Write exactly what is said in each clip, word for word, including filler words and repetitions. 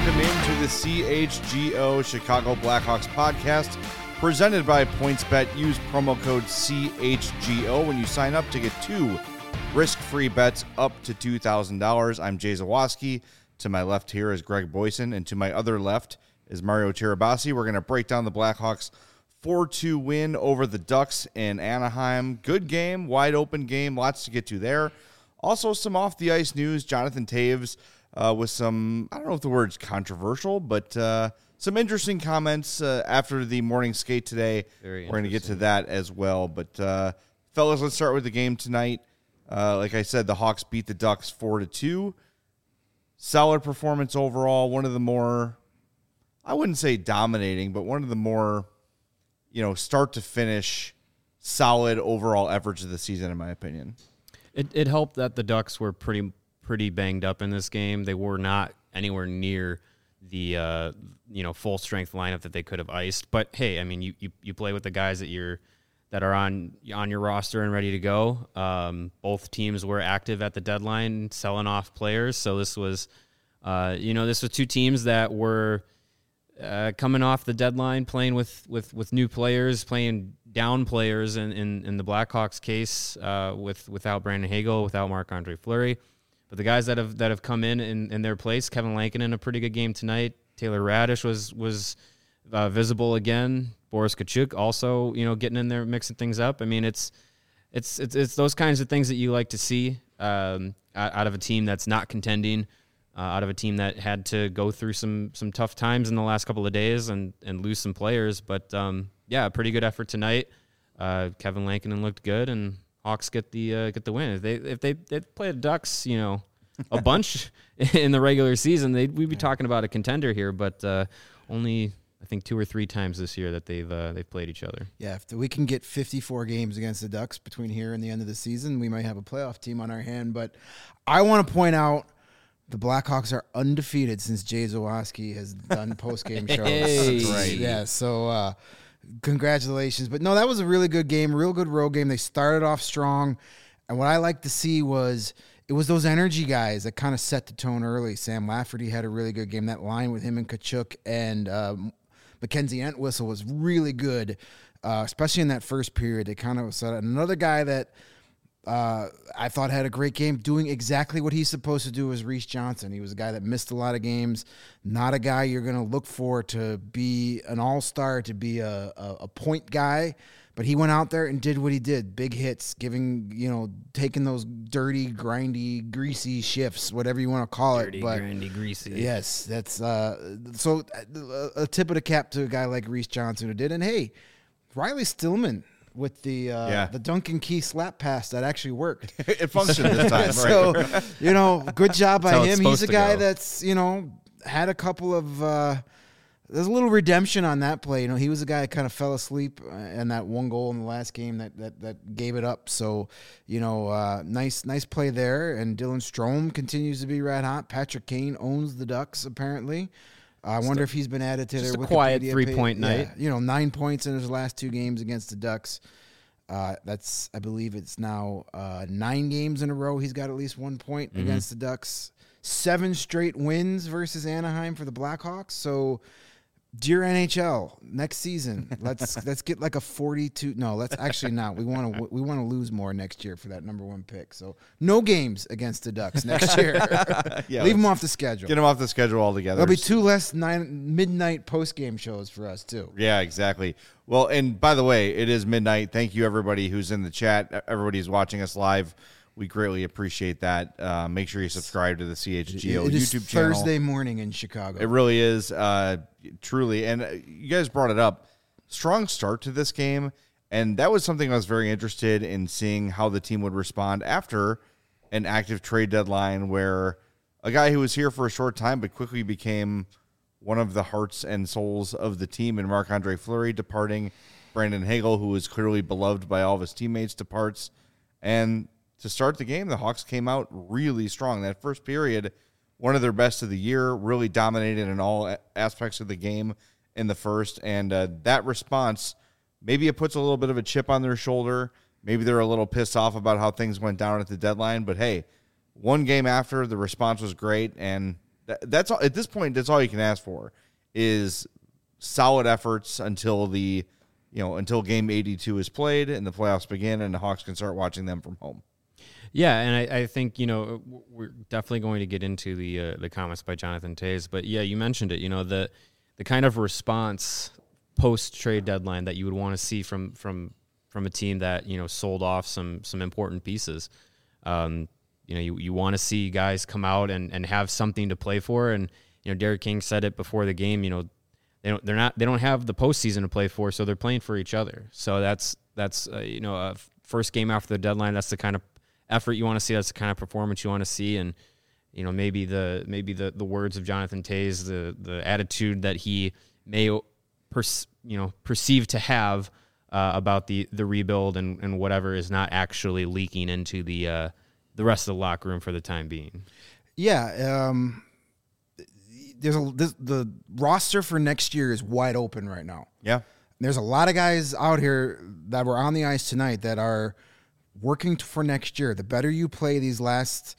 welcome into the C H G O Chicago Blackhawks podcast presented by PointsBet. Use promo code C H G O when you sign up to get two risk-free bets up to two thousand dollars. I'm Jay Zawaski. To my left here is Greg Boyson, and to my other left is Mario Tirabassi. We're going to break down the Blackhawks four two win over the Ducks in Anaheim. Good game, wide open game, lots to get to there. Also some off-the-ice news. Jonathan Toews uh, with some, I don't know if the word's controversial, but uh, some interesting comments uh, after the morning skate today. Very We're going to get to that as well. But, uh, fellas, let's start with the game tonight. Uh, like I said, the Hawks beat the Ducks four to two. Solid performance overall. One of the more, I wouldn't say dominating, but one of the more, you know, start to finish solid overall efforts of the season, in my opinion. It it helped that the Ducks were pretty pretty banged up in this game. They were not anywhere near the uh, you know full strength lineup that they could have iced. But hey, I mean, you, you, you play with the guys that you're that are on on your roster and ready to go. Um, both teams were active at the deadline, selling off players. So this was, uh, you know, this was two teams that were uh, coming off the deadline, playing with with, with new players, playing down players. In in, in the Blackhawks case, uh, with without Brandon Hagel, without Marc-Andre Fleury, but the guys that have that have come in in, in their place, Kevin Lankinen, a pretty good game tonight. Taylor Radish was was uh, visible again. Boris Kachuk also, you know, getting in there, mixing things up. I mean, it's it's it's, it's those kinds of things that you like to see um, out of a team that's not contending, uh, out of a team that had to go through some some tough times in the last couple of days and, and lose some players. But, um, yeah, pretty good effort tonight. Uh, Kevin Lankinen looked good, and Hawks get the uh, get the win. If they if they they play the Ducks, you know, a bunch in the regular season, they we'd be talking about a contender here, but uh, only – I think two or three times this year that they've uh, they've played each other. Yeah, if we can get fifty-four games against the Ducks between here and the end of the season, we might have a playoff team on our hand. But I want to point out the Blackhawks are undefeated since Jay Zawaski has done post-game shows. Hey. That's right. Yeah, so uh, congratulations. But, no, that was a really good game, real good road game. They started off strong. And what I like to see was it was those energy guys that kind of set the tone early. Sam Lafferty had a really good game. That line with him and Kachuk and um, – Mackenzie Entwistle was really good, uh, especially in that first period. They kind of set up. Another guy that uh, I thought had a great game, doing exactly what he's supposed to do, was Reese Johnson. He was a guy that missed a lot of games, not a guy you're going to look for to be an all-star, to be a, a, a point guy. But he went out there and did what he did. Big hits, giving, you know, taking those dirty, grindy, greasy shifts, whatever you want to call Dirty, it. But grindy, greasy. yes, that's uh, so uh, a tip of the cap to a guy like Reese Johnson who did. And hey, Riley Stillman with the uh, Yeah. the Duncan Key slap pass that actually worked. It functioned this time, right? So, you know, good job by That's how it's him. He's a supposed to guy go. that's, you know, had a couple of uh, there's a little redemption on that play. You know, he was a guy that kind of fell asleep and that one goal in the last game that that, that gave it up. So, you know, uh, nice nice play there. And Dylan Strome continues to be red hot. Patrick Kane owns the Ducks, apparently. Uh, I wonder if he's been added to just their a quiet Wikipedia three-point page. night. Yeah, you know, nine points in his last two games against the Ducks. Uh, that's, I believe it's now uh, nine games in a row. He's got at least one point Mm-hmm. against the Ducks. Seven straight wins versus Anaheim for the Blackhawks. So, dear N H L, next season, let's let's get like a forty-two. No, let's actually not. We want to we want to lose more next year for that number one pick. So, no games against the Ducks next year. Yeah, Leave them let's off the schedule. Get them off the schedule altogether. There'll be two less nine midnight post game shows for us too. Yeah, exactly. Well, and by the way, it is midnight. Thank you, everybody who's in the chat. Everybody who's watching us live. We greatly appreciate that. Uh, make sure you subscribe to the C H G O It is YouTube channel. Thursday morning in Chicago. It really is, uh, truly. And uh, you guys brought it up. Strong start to this game, and that was something I was very interested in seeing how the team would respond after an active trade deadline where a guy who was here for a short time but quickly became one of the hearts and souls of the team in Marc-Andre Fleury departing, Brandon Hagel, who was clearly beloved by all of his teammates, departs, and to start the game, the Hawks came out really strong. That first period, one of their best of the year, really dominated in all aspects of the game in the first. And uh, that response, maybe it puts a little bit of a chip on their shoulder. Maybe they're a little pissed off about how things went down at the deadline. But, hey, one game after, the response was great. And That, that's all, at this point, that's all you can ask for is solid efforts until the, you know, until game eighty-two is played and the playoffs begin and the Hawks can start watching them from home. Yeah, and I, I think, you know, we're definitely going to get into the uh, the comments by Jonathan Toews, but yeah, you mentioned it, you know, the the kind of response post-trade deadline that you would want to see from from from a team that, you know, sold off some some important pieces. Um, you know, you, you want to see guys come out and, and have something to play for, and, you know, Derek King said it before the game, you know, they don't they're not they don't have the postseason to play for, so they're playing for each other. So that's that's uh, you know, a first game after the deadline, that's the kind of effort you want to see. That's the kind of performance you want to see. And, you know, maybe the maybe the, the words of Jonathan Toews, the the attitude that he may pers- you know perceive to have uh, about the, the rebuild and, and whatever is not actually leaking into the uh, the rest of the locker room for the time being. Yeah, um, there's a this, the roster for next year is wide open right now. Yeah, there's a lot of guys out here that were on the ice tonight that are working for next year. The better you play these last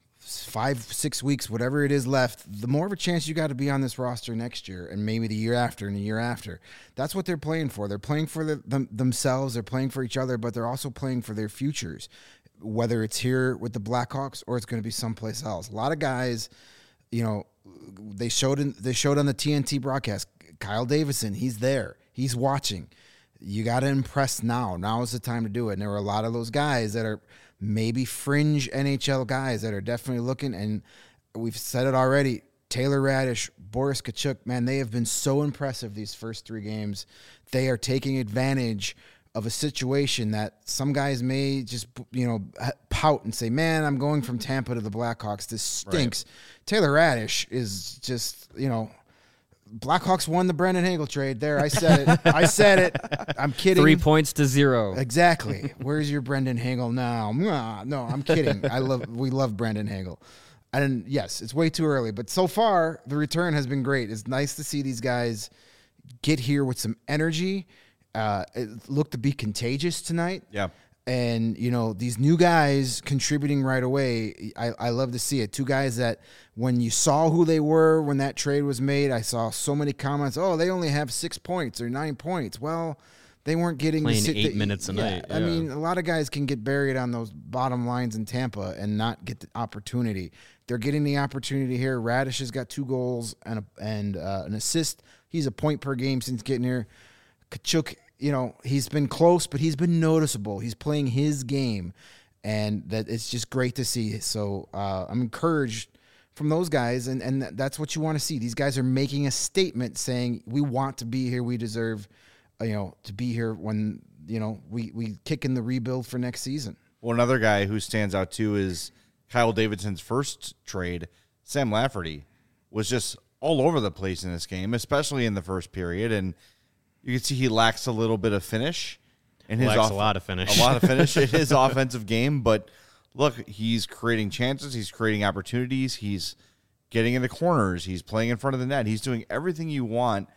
five, six weeks, whatever it is left, the more of a chance you got to be on this roster next year and maybe the year after and the year after. That's what they're playing for. They're playing for the, them, themselves. They're playing for each other, but they're also playing for their futures, whether it's here with the Blackhawks or it's going to be someplace else. A lot of guys, you know, they showed in, they showed on the T N T broadcast, Kyle Davidson, he's there. He's watching. You got to impress now. Now is the time to do it. And there were a lot of those guys that are maybe fringe N H L guys that are definitely looking, and we've said it already, Taylor Radish, Boris Tkachuk, man, they have been so impressive these first three games. They are taking advantage of a situation that some guys may just, you know, pout and say, man, I'm going from Tampa to the Blackhawks. This stinks. Right. Taylor Radish is just, you know, Blackhawks won the Brendan Hagel trade. There, I said it. I said it. I'm kidding. Three points to zero. Exactly. Where's your Brendan Hagel now? No, I'm kidding. I love. We love Brendan Hagel. And yes, it's way too early, but so far the return has been great. It's nice to see these guys get here with some energy. Uh, it looked to be contagious tonight. Yeah. And, you know, these new guys contributing right away, I, I love to see it. Two guys that when you saw who they were when that trade was made, I saw so many comments, oh, they only have six points or nine points. Well, they weren't getting playing to sit eight the, minutes a yeah, night. I Yeah. mean, a lot of guys can get buried on those bottom lines in Tampa and not get the opportunity. They're getting the opportunity here. Radish has got two goals and a, and uh, an assist. He's a point per game since getting here. Tkachuk, you know, he's been close, but he's been noticeable. He's playing his game, and that it's just great to see. So uh, I'm encouraged from those guys, and, and that's what you want to see. These guys are making a statement saying, we want to be here. We deserve, uh, you know, to be here when, you know, we, we kick in the rebuild for next season. Well, another guy who stands out, too, is Kyle Davidson's first trade. Sam Lafferty was just all over the place in this game, especially in the first period, and you can see he lacks a little bit of finish. In his lacks off- a lot of finish. A lot of finish in his offensive game. But, look, he's creating chances. He's creating opportunities. He's getting into corners. He's playing in front of the net. He's doing everything you want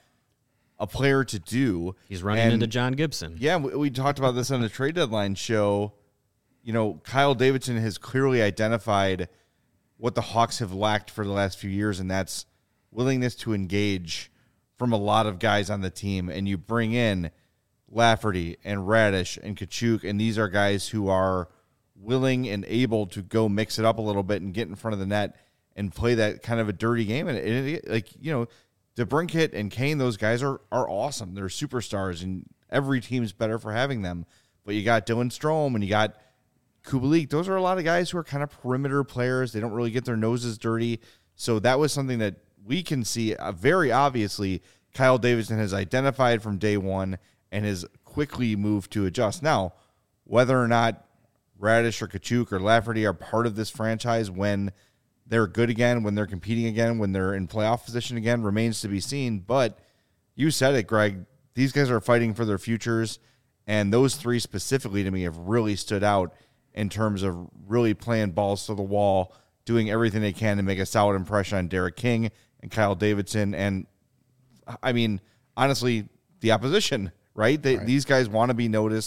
a player to do. He's running and, into John Gibson. Yeah, we, we talked about this on the trade deadline show. You know, Kyle Davidson has clearly identified what the Hawks have lacked for the last few years, and that's willingness to engage from a lot of guys on the team. And you bring in Lafferty and Radish and Tkachuk, and these are guys who are willing and able to go mix it up a little bit and get in front of the net and play that kind of a dirty game. And it, it, like, you know, DeBrincat and Kane, those guys are are awesome. They're superstars, and every team's better for having them. But you got Dylan Strome and you got Kubalik. Those are a lot of guys who are kind of perimeter players. They don't really get their noses dirty. So that was something that we can see uh, very obviously Kyle Davidson has identified from day one and has quickly moved to adjust. Now, whether or not Radish or Tkachuk or Lafferty are part of this franchise when they're good again, when they're competing again, when they're in playoff position again, remains to be seen. But you said it, Greg. These guys are fighting for their futures, and those three specifically to me have really stood out in terms of really playing balls to the wall, doing everything they can to make a solid impression on Derek King and Kyle Davidson, and I mean, honestly, the opposition, right? They, right. These guys want to be noticed.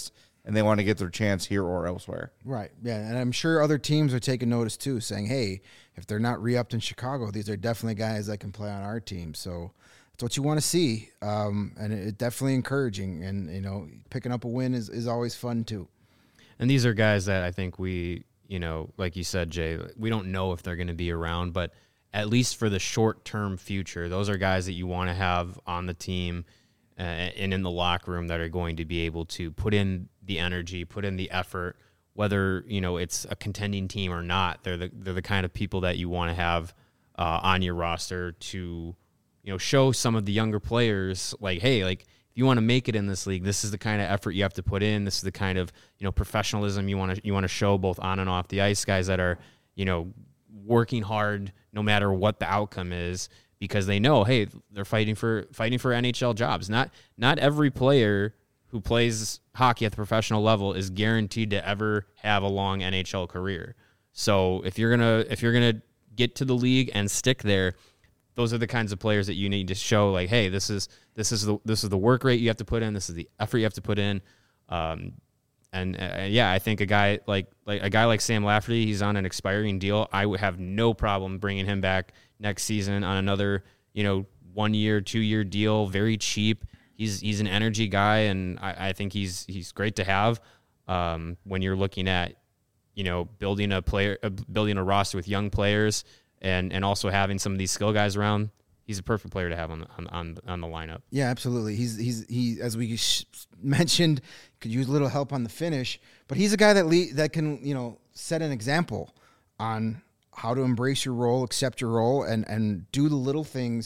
and they want to get their chance here or elsewhere. Right. Yeah. And I'm sure other teams are taking notice too, saying, hey, if they're not re-upped in Chicago, these are definitely guys that can play on our team. So that's what you want to see. Um, and it's definitely encouraging. And, you know, picking up a win is, is always fun too. And these are guys that I think we, you know, like you said, Jay, we don't know if they're going to be around, but at least for the short-term future, those are guys that you want to have on the team uh, and in the locker room that are going to be able to put in the energy, put in the effort, whether, you know, it's a contending team or not. They're the they're the kind of people that you want to have uh, on your roster to, you know, show some of the younger players, like, hey, like, if you want to make it in this league, this is the kind of effort you have to put in. This is the kind of, you know, professionalism you want to you want to show both on and off the ice. Guys that are, you know, working hard no matter what the outcome is, because they know, hey, they're fighting for fighting for N H L jobs. Not not every player who plays hockey at the professional level is guaranteed to ever have a long N H L career. So if you're gonna if you're gonna get to the league and stick there, those are the kinds of players that you need to show, like, hey, this is this is the this is the work rate you have to put in, this is the effort you have to put in. Um, and uh, yeah, I think a guy like like a guy like Sam Lafferty, he's on an expiring deal. I would have no problem bringing him back next season on another, you know, one year, two year deal, very cheap. He's he's an energy guy, and I, I think he's he's great to have um, when you're looking at, you know, building a player, uh, building a roster with young players, and and also having some of these skill guys around. He's a perfect player to have on on on, on the lineup. Yeah, absolutely. He's he's he as we sh- mentioned, could use a little help on the finish, but he's a guy that le- that can, you know, set an example on how to embrace your role, accept your role, and and do the little things.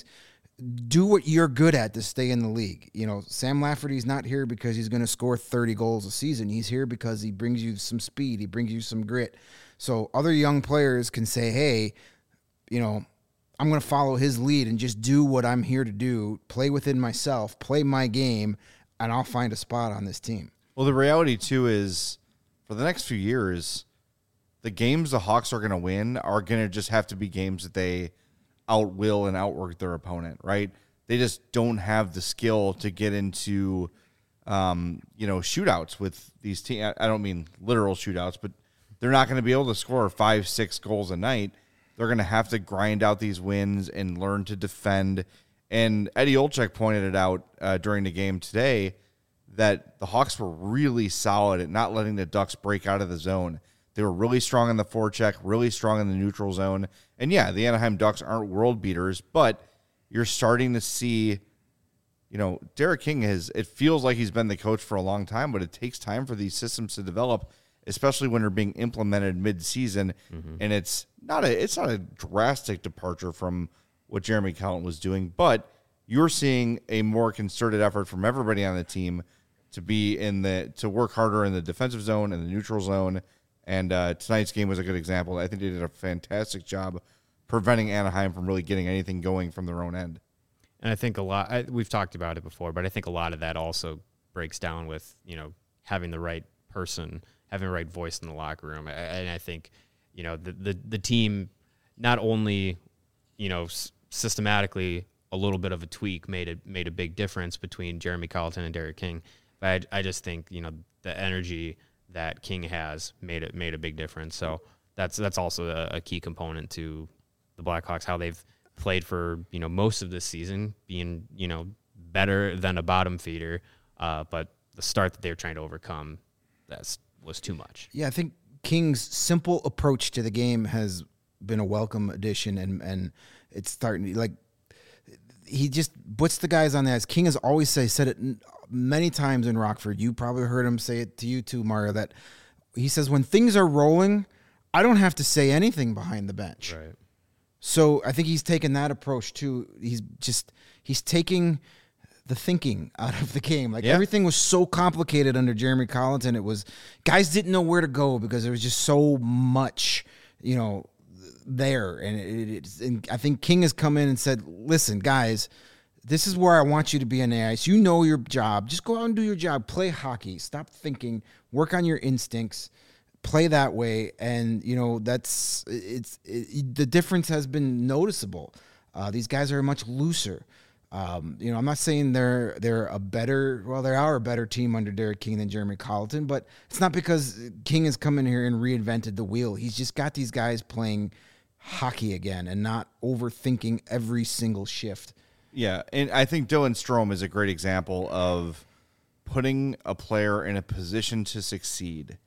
Do what you're good at to stay in the league. You know, Sam Lafferty's not here because he's going to score thirty goals a season. He's here because he brings you some speed. He brings you some grit. So other young players can say, hey, you know, I'm going to follow his lead and just do what I'm here to do, play within myself, play my game, and I'll find a spot on this team. Well, the reality, too, is for the next few years, the games the Hawks are going to win are going to just have to be games that they outwill and outwork their opponent, right? They just don't have the skill to get into, um, you know, shootouts with these teams. I don't mean literal shootouts, but they're not going to be able to score five, six goals a night. They're going to have to grind out these wins and learn to defend. And Eddie Olczyk pointed it out uh, during the game today that the Hawks were really solid at not letting the Ducks break out of the zone. They were really strong in the forecheck, really strong in the neutral zone. And yeah, the Anaheim Ducks aren't world beaters, but you're starting to see, you know, Derek King has, it feels like he's been the coach for a long time, but it takes time for these systems to develop, especially when they're being implemented mid-season. Mm-hmm. And it's not a it's not a drastic departure from what Jeremy Colliton was doing, but you're seeing a more concerted effort from everybody on the team to be in the to work harder in the defensive zone and the neutral zone. And uh, tonight's game was a good example. I think they did a fantastic job preventing Anaheim from really getting anything going from their own end. And I think a lot, I, we've talked about it before, but I think a lot of that also breaks down with, you know, having the right person, having the right voice in the locker room. And I think, you know, the, the, the team not only, you know, s- systematically a little bit of a tweak made it made a big difference between Jeremy Colliton and Derek King. But I, I just think, you know, the energy that King has made it made a big difference. So that's that's also a, a key component to the Blackhawks, how they've played for, you know, most of this season, being, you know, better than a bottom feeder. Uh, but the start that they're trying to overcome, that's was too much. Yeah, I think King's simple approach to the game has been a welcome addition, and and it's starting like he just puts the guys on the ice. King has always say, said it many times in Rockford. You probably heard him say it to you too, Mario, that he says when things are rolling, I don't have to say anything behind the bench. Right. So I think he's taken that approach too. He's just he's taking the thinking out of the game. Like yeah. Everything was so complicated under Jeremy Colliton. It was guys didn't know where to go because there was just so much, you know, there. And it, it, and I think King has come in and said, "Listen, guys, this is where I want you to be on the ice. You know your job. Just go out and do your job. Play hockey. Stop thinking. Work on your instincts. Play that way." And you know that's it's it, the difference has been noticeable. Uh, these guys are much looser. Um, you know, I'm not saying they're they're a better, well, they are a better team under Derek King than Jeremy Colleton, but it's not because King has come in here and reinvented the wheel. He's just got these guys playing hockey again and not overthinking every single shift. Yeah, and I think Dylan Strome is a great example of putting a player in a position to succeed.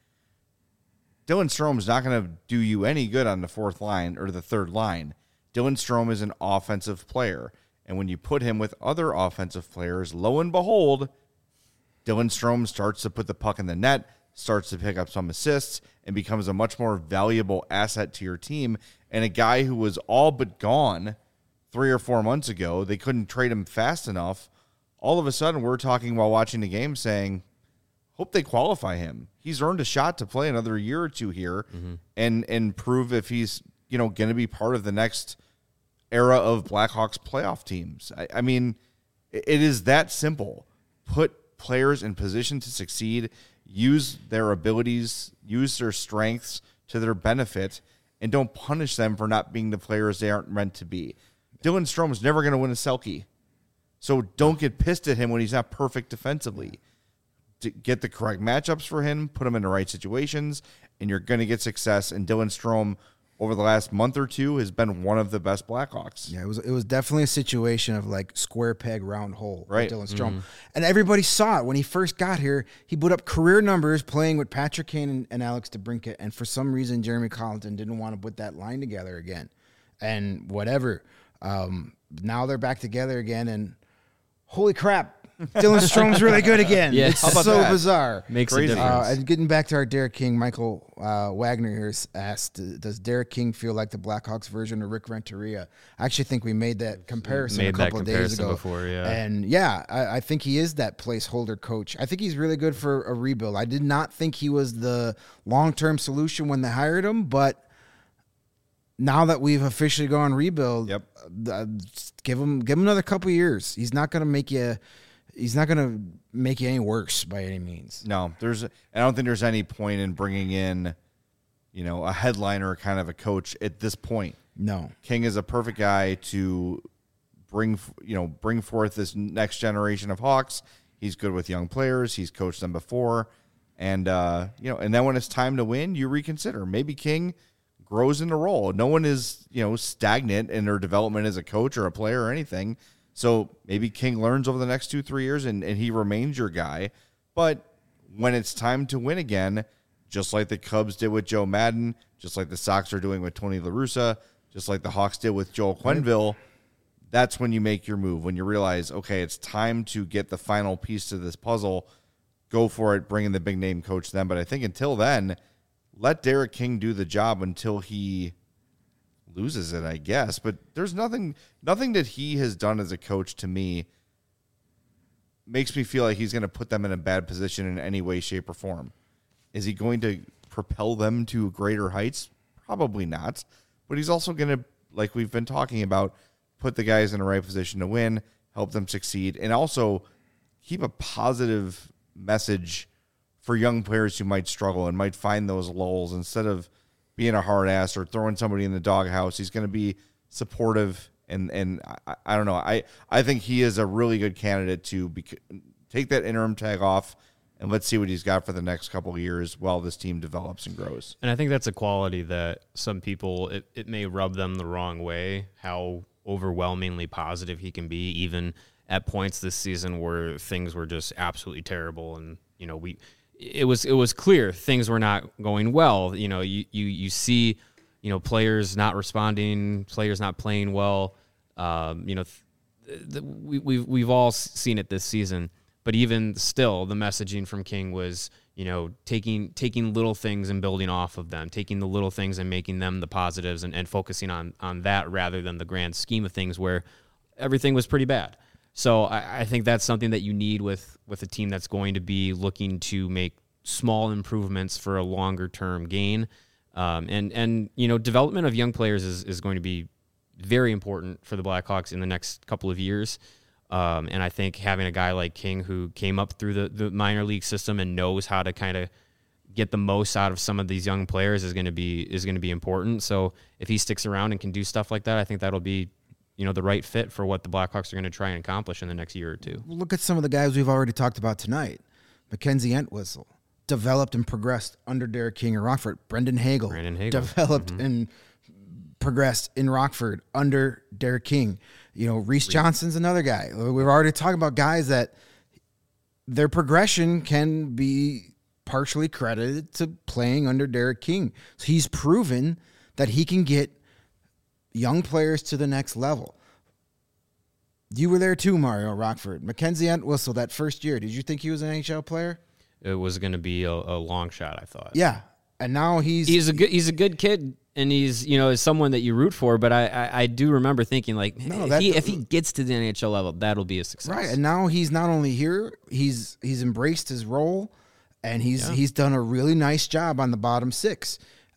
Dylan Strome's not going to do you any good on the fourth line or the third line. Dylan Strome is an offensive player. And when you put him with other offensive players, lo and behold, Dylan Strome starts to put the puck in the net, starts to pick up some assists, and becomes a much more valuable asset to your team. And a guy who was all but gone three or four months ago, they couldn't trade him fast enough. All of a sudden, we're talking while watching the game saying, hope they qualify him. He's earned a shot to play another year or two here mm-hmm. and and prove if he's, you know, going to be part of the next era of Blackhawks playoff teams. I, I mean, it is that simple. Put players in position to succeed, use their abilities, use their strengths to their benefit, and don't punish them for not being the players they aren't meant to be. Dylan Strome's never going to win a Selke, so don't get pissed at him when he's not perfect defensively. To get the correct matchups for him, put him in the right situations, and you're going to get success. And Dylan Strome, over the last month or two, has been one of the best Blackhawks. Yeah, it was it was definitely a situation of like square peg, round hole. Right. With Dylan Strome. Mm-hmm. And everybody saw it when he first got here. He put up career numbers playing with Patrick Kane and, and Alex DeBrincat. And for some reason, Jeremy Colleton didn't want to put that line together again. And whatever. Um, now they're back together again. And holy crap. Dylan Strome's really good again. Yeah. It's How about so that? bizarre. Makes Crazy. a difference. Uh, and getting back to our Derek King, Michael uh, Wagner here asked, does Derek King feel like the Blackhawks version of Rick Renteria? I actually think we made that comparison Made a couple that of days comparison ago. before, yeah. And yeah, I, I think he is that placeholder coach. I think he's really good for a rebuild. I did not think he was the long-term solution when they hired him, but now that we've officially gone rebuild, Yep. uh, give him give him another couple of years. He's not going to make you... He's not going to make you any worse by any means. No, there's. I don't think there's any point in bringing in, you know, a headliner kind of a coach at this point. No. King is a perfect guy to bring, you know, bring forth this next generation of Hawks. He's good with young players. He's coached them before, and uh, you know, and then when it's time to win, you reconsider. Maybe King grows in the role. No one is, you know, stagnant in their development as a coach or a player or anything. So maybe King learns over the next two, three years and, and he remains your guy. But when it's time to win again, just like the Cubs did with Joe Madden, just like the Sox are doing with Tony La Russa, just like the Hawks did with Joel Quenneville, that's when you make your move. When you realize, okay, it's time to get the final piece to this puzzle, go for it, bring in the big name coach then. But I think until then, let Derek King do the job until he loses it, I guess. But there's nothing nothing that he has done as a coach to me makes me feel like he's going to put them in a bad position in any way, shape, or form. Is he going to propel them to greater heights? Probably not. But he's also going to, like we've been talking about, put the guys in the right position to win, help them succeed, and also keep a positive message for young players who might struggle and might find those lulls. Instead of being a hard ass or throwing somebody in the doghouse, he's going to be supportive. And and I, I don't know. I, I think he is a really good candidate to be, take that interim tag off and let's see what he's got for the next couple of years while this team develops and grows. And I think that's a quality that some people, it, it may rub them the wrong way, how overwhelmingly positive he can be, even at points this season where things were just absolutely terrible. And, you know, we, it was, it was clear things were not going well. You know, you, you, you see, you know, players not responding, players not playing well. Um, you know, th- th- we, we've, we've all seen it this season, but even still the messaging from King was, you know, taking, taking little things and building off of them, taking the little things and making them the positives and, and focusing on, on that rather than the grand scheme of things where everything was pretty bad. So I, I think that's something that you need with, with a team that's going to be looking to make small improvements for a longer term gain. Um, and, and, you know, development of young players is, is going to be very important for the Blackhawks in the next couple of years. Um, and I think having a guy like King who came up through the, the minor league system and knows how to kind of get the most out of some of these young players is going to be, is going to be important. So if he sticks around and can do stuff like that, I think that'll be, you know, the right fit for what the Blackhawks are going to try and accomplish in the next year or two. Look at some of the guys we've already talked about tonight. Mackenzie Entwistle developed and progressed under Derek King in Rockford. Brendan Hagel, Brandon Hagel. developed Mm-hmm. and progressed in Rockford under Derek King. You know, Reese Johnson's another guy. We've already talked about guys that their progression can be partially credited to playing under Derek King. So he's proven that he can get young players to the next level. You were there too, Mario Rockford. Mackenzie Entwistle, that first year, did you think he was an N H L player? It was going to be a, a long shot, I thought. Yeah, and now he's He's a good he's a good kid, and he's, you know, is someone that you root for. But I, I, I do remember thinking, like, No, if, that- he, if he gets to the N H L level, that'll be a success. right. And now he's not only here, he's he's embraced his role, and he's Yeah. he's done a really nice job on the bottom six.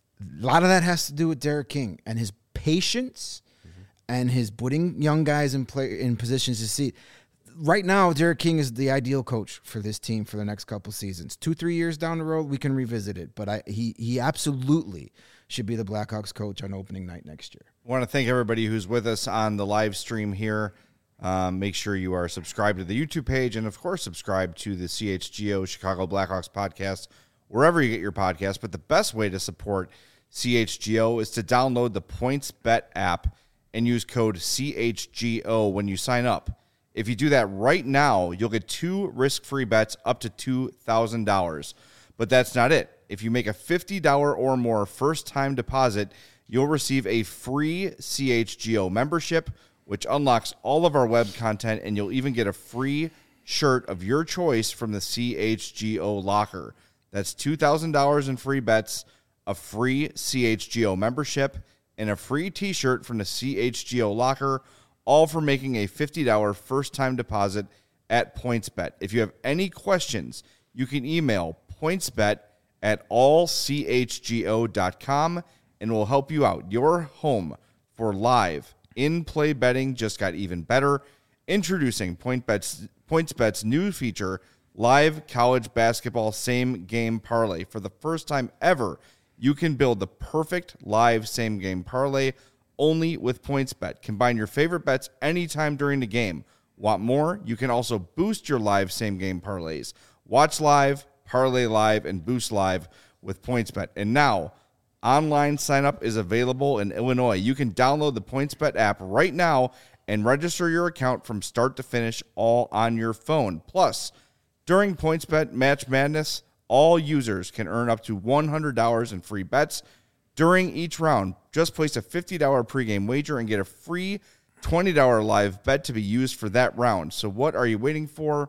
A lot of that has to do with Derek King and his patience and his putting young guys in play in positions to see. Right now, Derek King is the ideal coach for this team for the next couple seasons. Two, three years down the road, we can revisit it. But I, he he absolutely should be the Blackhawks coach on opening night next year. I want to thank everybody who's with us on the live stream here. Um, make sure you are subscribed to the YouTube page and, of course, subscribe to the C H G O Chicago Blackhawks podcast, wherever you get your podcast. But the best way to support C H G O is to download the PointsBet app and use code C H G O when you sign up. If you do that right now, you'll get two risk-free bets up to two thousand dollars. But that's not it. If you make a fifty dollars or more first-time deposit, you'll receive a free C H G O membership, which unlocks all of our web content, and you'll even get a free shirt of your choice from the C H G O locker. That's two thousand dollars in free bets, a free C H G O membership, and a free t-shirt from the C H G O locker, all for making a fifty dollars first-time deposit at PointsBet. If you have any questions, you can email pointsbet at all c h g o dot com, and we'll help you out. Your home for live in-play betting just got even better. Introducing PointsBet's, PointsBet's new feature, Live College Basketball Same-Game Parlay. For the first time ever, you can build the perfect live same-game parlay only with PointsBet. Combine your favorite bets anytime during the game. Want more? You can also boost your live same-game parlays. Watch live, parlay live, and boost live with PointsBet. And now, online sign-up is available in Illinois. You can download the PointsBet app right now and register your account from start to finish all on your phone. Plus, during PointsBet Match Madness, all users can earn up to one hundred dollars in free bets during each round. Just place a fifty dollars pregame wager and get a free twenty dollars live bet to be used for that round. So what are you waiting for?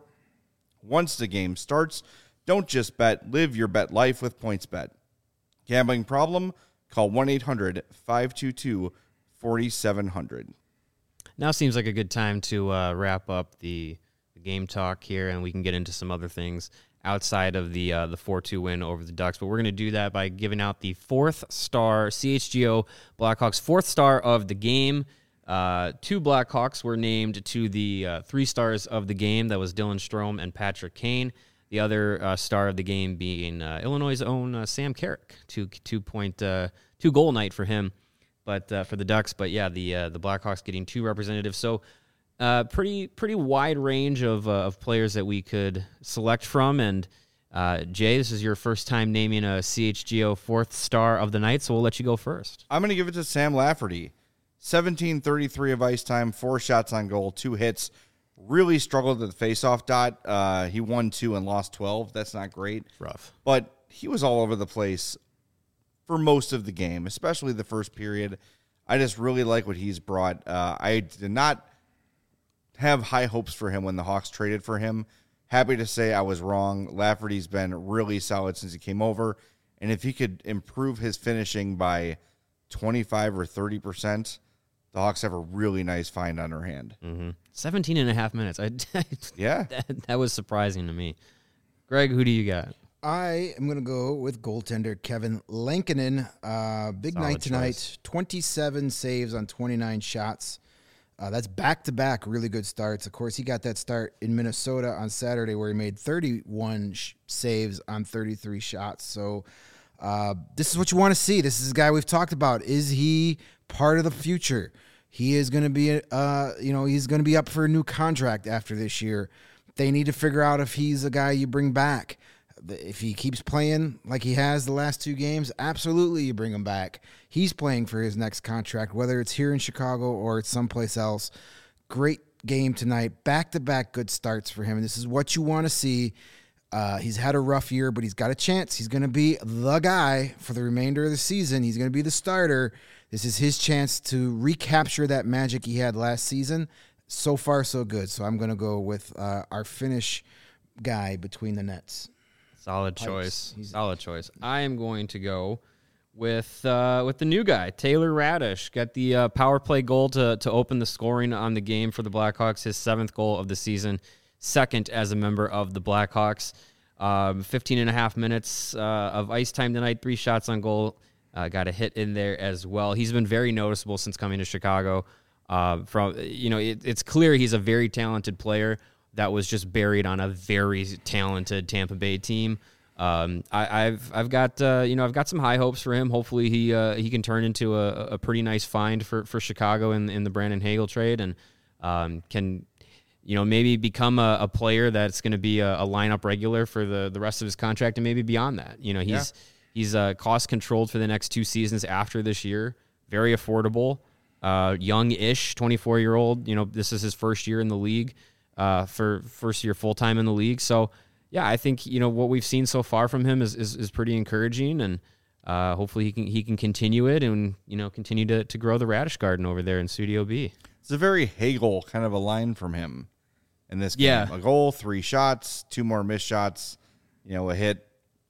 Once the game starts, don't just bet, live your bet life with PointsBet. Gambling problem? Call one eight hundred five two two four seven zero zero. Now seems like a good time to uh, wrap up the, the game talk here, and we can get into some other things outside of the uh, the four two win over the Ducks. But we're going to do that by giving out the fourth star C H G O Blackhawks fourth star of the game. Uh, two Blackhawks were named to the uh, three stars of the game. That was Dylan Strome and Patrick Kane. The other uh, star of the game being uh, Illinois' own uh, Sam Carrick. Two two point uh, two goal night for him, but uh, for the Ducks. But yeah, the uh, the Blackhawks getting two representatives. So. Uh, pretty pretty wide range of uh, of players that we could select from, and uh, Jay, this is your first time naming a C H G O fourth star of the night, so we'll let you go first. I'm going to give it to Sam Lafferty. seventeen thirty-three of ice time, four shots on goal, two hits. Really struggled at the faceoff dot. Uh, he won two and lost twelve. That's not great. Rough. But he was all over the place for most of the game, especially the first period. I just really like what he's brought. Uh, I did not have high hopes for him when the Hawks traded for him. Happy to say I was wrong. Lafferty's been really solid since he came over. And if he could improve his finishing by twenty-five or thirty percent, the Hawks have a really nice find on their hand. Mm-hmm. seventeen and a half minutes. I, Yeah. that, that was surprising to me. Greg, who do you got? I am going to go with goaltender Kevin Lankinen. Uh, big Solid night tonight. choice. twenty-seven saves on twenty-nine shots. Uh, that's back-to-back really good starts. Of course, he got that start in Minnesota on Saturday where he made thirty-one sh- saves on thirty-three shots. So uh, this is what you want to see. This is a guy we've talked about. Is he part of the future? He is going to be, uh, you know, he's going to be up for a new contract after this year. They need to figure out if he's a guy you bring back. If he keeps playing like he has the last two games, absolutely you bring him back. He's playing for his next contract, whether it's here in Chicago or it's someplace else. Great game tonight. Back-to-back good starts for him. And this is what you want to see. Uh, he's had a rough year, but he's got a chance. He's going to be the guy for the remainder of the season. He's going to be the starter. This is his chance to recapture that magic he had last season. So far, so good. So I'm going to go with uh, our Finnish guy between the nets. Solid choice. Solid choice. I am going to go with uh, with the new guy, Taylor Radish. Got the uh, power play goal to, to open the scoring on the game for the Blackhawks, his seventh goal of the season. Second as a member of the Blackhawks. Um, fifteen and a half minutes uh, of ice time tonight, three shots on goal. Uh, got a hit in there as well. He's been very noticeable since coming to Chicago. Uh, from you know, it, it's clear he's a very talented player that was just buried on a very talented Tampa Bay team. Um, I, I've I've got uh, you know I've got some high hopes for him. Hopefully he uh, he can turn into a, a pretty nice find for, for Chicago in in the Brandon Hagel trade and um, can. You know, maybe become a, a player that's going to be a, a lineup regular for the, the rest of his contract and maybe beyond that. You know, he's yeah. he's uh, cost controlled for the next two seasons after this year. Very affordable, uh, young-ish, twenty-four-year-old. You know, this is his first year in the league, uh, for first year full-time in the league. So, yeah, I think, you know, what we've seen so far from him is is, is pretty encouraging, and uh, hopefully he can he can continue it and, you know, continue to, to grow the Radish Garden over there in Studio B. It's a very Hagel kind of a line from him. In this game, yeah. a goal, three shots, two more missed shots, you know, a hit,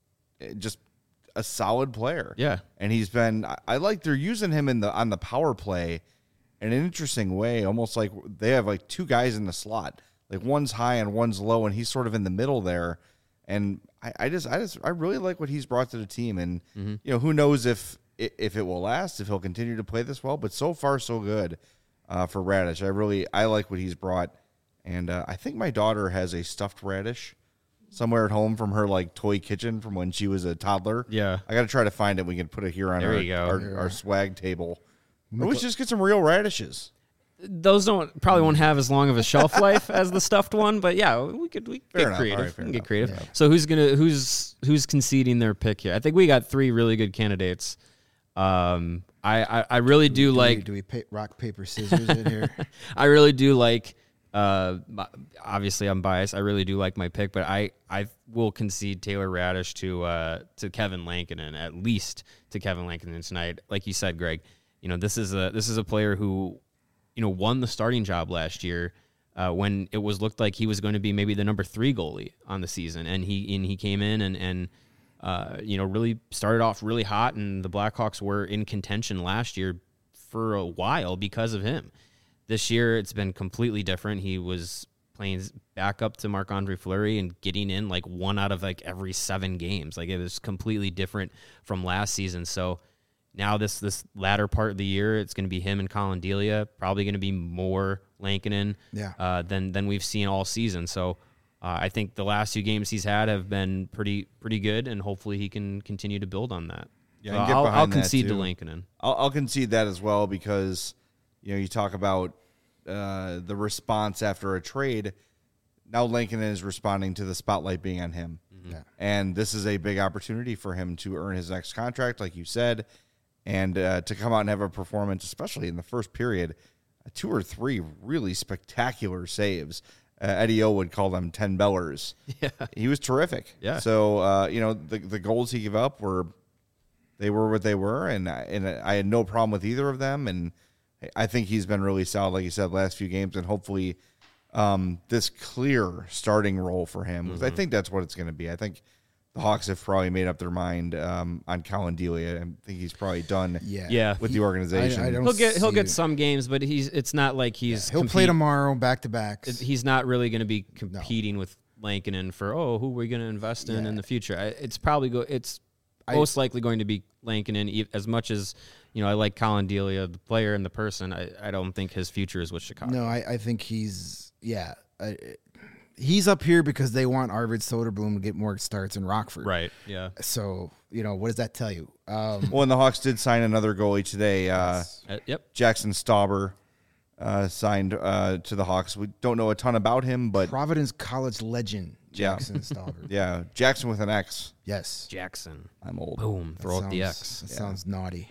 just a solid player. Yeah. And he's been, I, I like they're using him in the on the power play in an interesting way, almost like they have like two guys in the slot, like one's high and one's low, and he's sort of in the middle there. And I, I just, I just, I really like what he's brought to the team. And, mm-hmm. you know, who knows if, if it will last, if he'll continue to play this well, but so far so good uh, for Radish. I really, I like what he's brought. And uh, I think my daughter has a stuffed radish somewhere at home from her like toy kitchen from when she was a toddler. Yeah, I got to try to find it. We can put it here on there our, you go. our, our swag table. Or we just get some real radishes. Those don't probably won't have as long of a shelf life as the stuffed one, but yeah, we could we fair get enough. creative. Right, we can enough. get creative. Yeah. So who's gonna who's who's conceding their pick here? I think we got three really good candidates. Um, I I, I really do, do like. We, do we pay, rock paper scissors in here? I really do like. Uh, obviously I'm biased. I really do like my pick, but I, I will concede Taylor Radish to uh, to Kevin Lankinen, at least to Kevin Lankinen tonight. Like you said, Greg, you know, this is a this is a player who, you know, won the starting job last year uh, when it was looked like he was going to be maybe the number three goalie on the season, and he and he came in and and uh, you know, really started off really hot, and the Blackhawks were in contention last year for a while because of him. This year, it's been completely different. He was playing back up to Marc-Andre Fleury and getting in like one out of like every seven games. Like, it was completely different from last season. So now this this latter part of the year, it's going to be him and Colin Delia. Probably going to be more Lankinen yeah. uh, than than we've seen all season. So uh, I think the last two games he's had have been pretty pretty good, and hopefully he can continue to build on that. Yeah, so and get I'll, behind I'll that, concede too. to Lankinen. I'll, I'll concede that as well because, you know, you talk about uh, the response after a trade. Now Lankinen is responding to the spotlight being on him. Mm-hmm. Yeah. And this is a big opportunity for him to earn his next contract, like you said, and uh, to come out and have a performance, especially in the first period, uh, two or three really spectacular saves. Uh, Eddie O would call them ten bellers. Yeah. He was terrific. Yeah. So, uh, you know, the the goals he gave up were, they were what they were, and I, and I had no problem with either of them, and I think he's been really solid, like you said, last few games, and hopefully um, this clear starting role for him, because mm-hmm. I think that's what it's going to be. I think the Hawks have probably made up their mind um, on Colin Delia. I think he's probably done yeah. Yeah. with he, the organization. I, I don't he'll get he'll get it. some games, but he's it's not like he's yeah, he'll compete- play tomorrow back to backs. He's not really going to be competing no. with Lankinen for oh who are we going to invest in yeah. in the future. I, it's probably go it's I, most likely going to be Lankinen. As much as you know, I like Colin Delia, the player and the person. I, I don't think his future is with Chicago. No, I, I think he's yeah. I, He's up here because they want Arvid Soderblom to get more starts in Rockford. Right, yeah. So, you know, what does that tell you? Um, well, and the Hawks did sign another goalie today, uh, uh, yep. Jackson Stauber. uh, signed uh, to the Hawks. We don't know a ton about him, but Providence College legend Yeah. Jackson Stolver. yeah, Jackson with an X. Yes. Jackson. I'm old. Boom. That Throw out the sounds- X. That sounds naughty.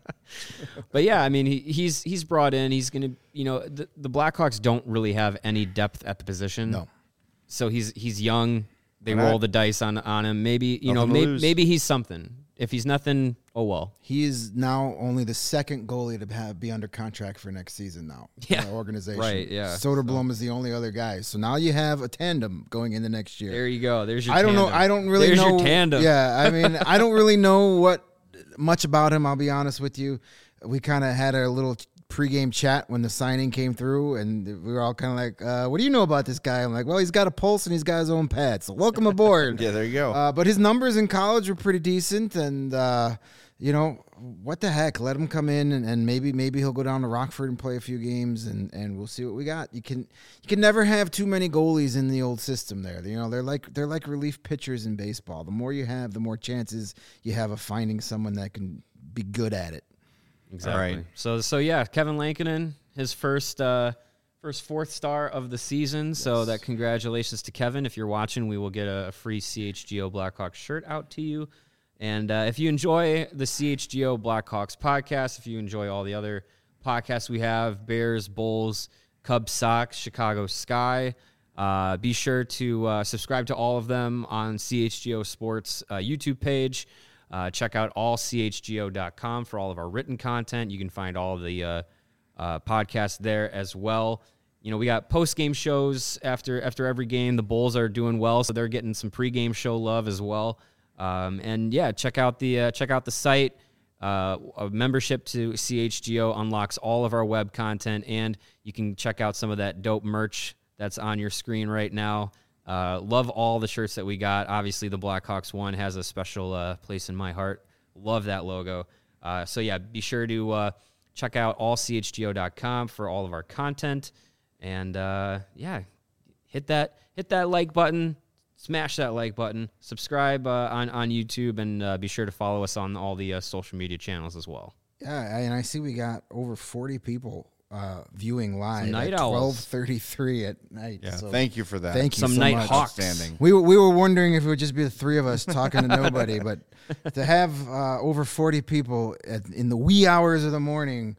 But yeah, I mean, he, he's he's brought in. He's going to, you know, the, the Blackhawks don't really have any depth at the position. No. So he's he's young. They Why roll not? the dice on on him. Maybe you know, Nothing to maybe, lose. maybe he's something. If he's nothing, oh well. He is now only the second goalie to have, be under contract for next season now. Yeah. In the organization. Right, yeah. Soderblom is the only other guy. So now you have a tandem going into next year. There you go. There's your. I don't know. tandem. I don't really There's know. your tandem. Yeah, I mean, I don't really know what much about him. I'll be honest with you. We kind of had a little pregame chat when the signing came through, and we were all kind of like, uh, "What do you know about this guy?" I'm like, "Well, he's got a pulse and he's got his own pad. So welcome aboard." Yeah, there you go. Uh, but his numbers in college were pretty decent, and uh, you know what the heck? Let him come in, and, and maybe maybe he'll go down to Rockford and play a few games, and, and we'll see what we got. You can you can never have too many goalies in the old system. There, you know they're like they're like relief pitchers in baseball. The more you have, the more chances you have of finding someone that can be good at it. Exactly. All right. So so yeah, Kevin Lankinen, his first uh, first fourth star of the season. So that congratulations to Kevin. If you're watching, we will get a, a free C H G O Blackhawks shirt out to you. And uh, if you enjoy the C H G O Blackhawks podcast, if you enjoy all the other podcasts we have, Bears, Bulls, Cubs, Sox, Chicago Sky, uh, be sure to uh, subscribe to all of them on C H G O Sports uh, YouTube page. Uh, check out all c h g o dot com for all of our written content. You can find all of the uh, uh, podcasts there as well. You know, we got post-game shows after after every game. The Bulls are doing well, so they're getting some pre-game show love as well. Um, and yeah, check out the uh, check out the site. Uh, a membership to C H G O unlocks all of our web content, and you can check out some of that dope merch that's on your screen right now. Uh, love all the shirts that we got. Obviously, the Blackhawks one has a special uh, place in my heart. Love that logo. Uh, so, yeah, be sure to uh, check out all c h g o dot com for all of our content. And, uh, yeah, hit that hit that like button. Smash that like button. Subscribe uh, on, on YouTube, and uh, be sure to follow us on all the uh, social media channels as well. Yeah, and I see we got over forty people uh, viewing live Some night at owls. twelve thirty-three at night. yeah, so thank you for that. thank you Some so night much. hawks. Outstanding. We were, we were wondering if it would just be the three of us talking to nobody, but to have uh, over forty people at, in the wee hours of the morning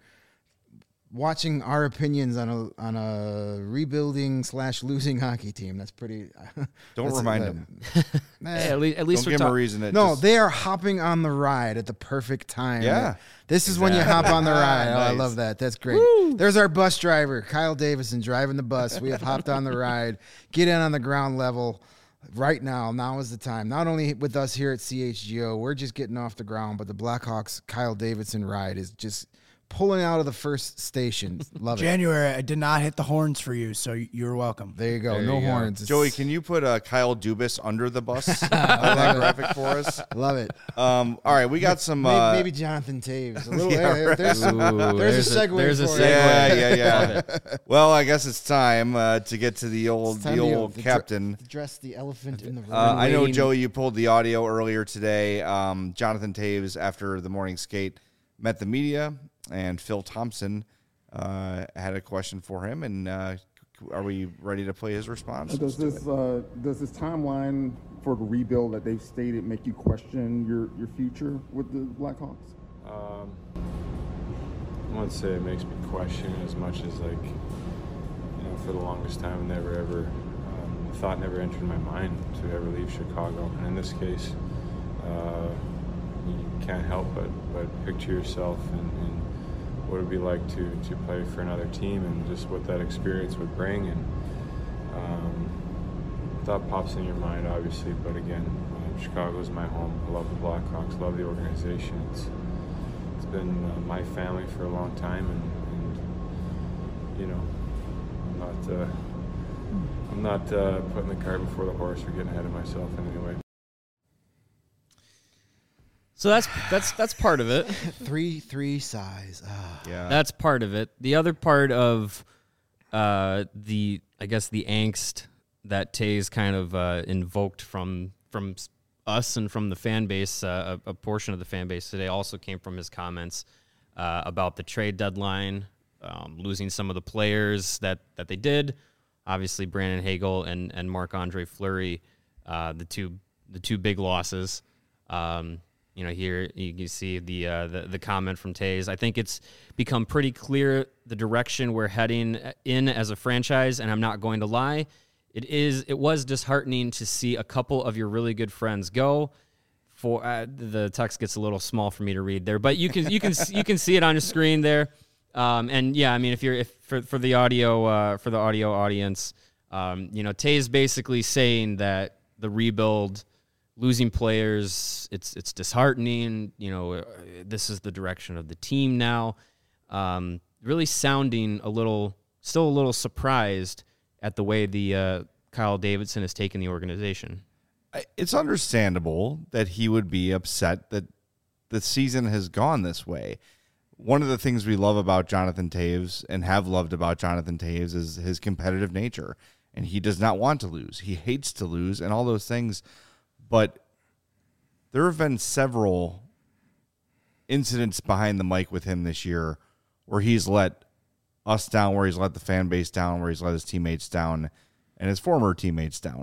watching our opinions on a on a rebuilding slash losing hockey team, that's pretty. Don't that's- remind that- them. Nah. Hey, at least, at least Don't we're give them a talking. reason to No, just- they are hopping on the ride at the perfect time. Yeah. This is when you hop Exactly. on the ride. Oh, I Nice. love that. That's great. There's our bus driver, Kyle Davison, driving the bus. We have hopped on the ride. Get in on the ground level right now. Now is the time. Not only with us here at C H G O, we're just getting off the ground, but the Blackhawks Kyle Davidson ride is just pulling out of the first station. Love it. January, I did not hit the horns for you, so you're welcome. There you go. There no you go. horns. It's- Joey, can you put uh, Kyle Dubas under the bus on that graphic for us? Love it. Um, all right, we got some. Maybe, Uh, maybe Jonathan Taves. A little, Yeah, there- right. there's, Ooh, there's, a segue. There's a for segue. it. Yeah, yeah, Love yeah. Well, I guess it's time uh, to get to the old, It's time the to- old to dr- captain. Address the elephant in the room. Uh, I know, waiting- Joey, you pulled the audio earlier today. Um, Jonathan Taves, after the morning skate, met the media, and Phil Thompson uh, had a question for him. And uh, are we ready to play his response? Does this uh, does this timeline for the rebuild that they've stated make you question your, your future with the Blackhawks? Um, I wouldn't say it makes me question as much as like, you know, for the longest time, never ever, um, the thought never entered my mind to ever leave Chicago. And in this case, uh, you can't help but, but picture yourself and, and what it would be like to, to play for another team and just what that experience would bring. And um, thought pops in your mind, obviously, but again, uh, Chicago is my home. I love the Blackhawks, love the organization. It's, it's been uh, my family for a long time, and, and you know, I'm not, uh, I'm not uh, putting the cart before the horse or getting ahead of myself in any way. So that's that's that's part of it. Three, three size. Ah. Yeah. That's part of it. The other part of uh, the, I guess, the angst that Tays kind of uh, invoked from from us and from the fan base, uh, a, a portion of the fan base today, also came from his comments uh, about the trade deadline um, losing some of the players that, that they did. Obviously, Brandon Hagel and, and Marc-Andre Fleury, uh, the two the two big losses. Um, you know, here you can see the, uh, the the comment from Tays. I think it's become pretty clear the direction we're heading in as a franchise, and I'm not going to lie. It is. It was disheartening to see a couple of your really good friends go. For uh, the text gets a little small for me to read there, but you can you can you can see it on your screen there. Um, and yeah, I mean, if you're if for for the audio uh, for the audio audience, um, you know, Tay is basically saying that the rebuild, losing players, it's it's disheartening. You know, uh, this is the direction of the team now. Um, really sounding a little, still a little surprised at the way the uh, Kyle Davidson has taken the organization. It's understandable that he would be upset that the season has gone this way. One of the things we love about Jonathan Toews and have loved about Jonathan Toews is his competitive nature, and he does not want to lose. He hates to lose and all those things, but there have been several incidents behind the mic with him this year where he's let us down, where he's let the fan base down, where he's let his teammates down and his former teammates down.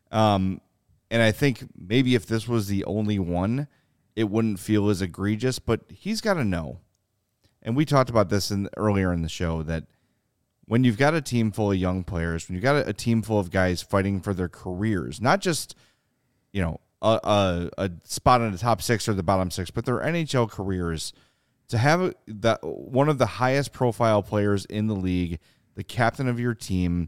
Um, And I think maybe if this was the only one, it wouldn't feel as egregious, but he's got to know. And we talked about this in, earlier in the show, that when you've got a team full of young players, when you've got a, a team full of guys fighting for their careers, not just, you know, a, a, a spot in the top six or the bottom six, but their N H L careers, to have that one of the highest profile players in the league, the captain of your team,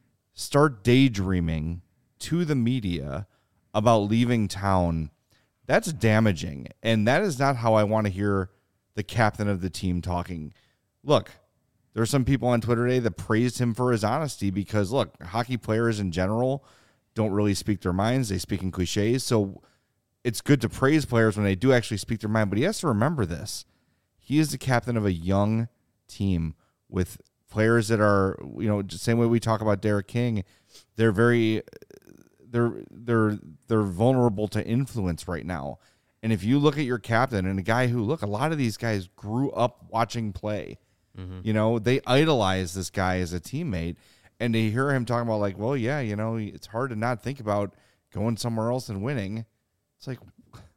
start daydreaming to the media about leaving town, that's damaging. And that is not how I want to hear the captain of the team talking. Look, there are some people on Twitter today that praised him for his honesty because, look, hockey players in general don't really speak their minds. They speak in cliches. So it's good to praise players when they do actually speak their mind. But he has to remember this. He is the captain of a young team with players that are, you know, the same way we talk about Derek King. They're very... They're they're they're vulnerable to influence right now. And if you look at your captain and a guy who, look, a lot of these guys grew up watching play. Mm-hmm. You know, they idolize this guy as a teammate. And to hear him talking about, like, well, yeah, you know, it's hard to not think about going somewhere else and winning. It's like,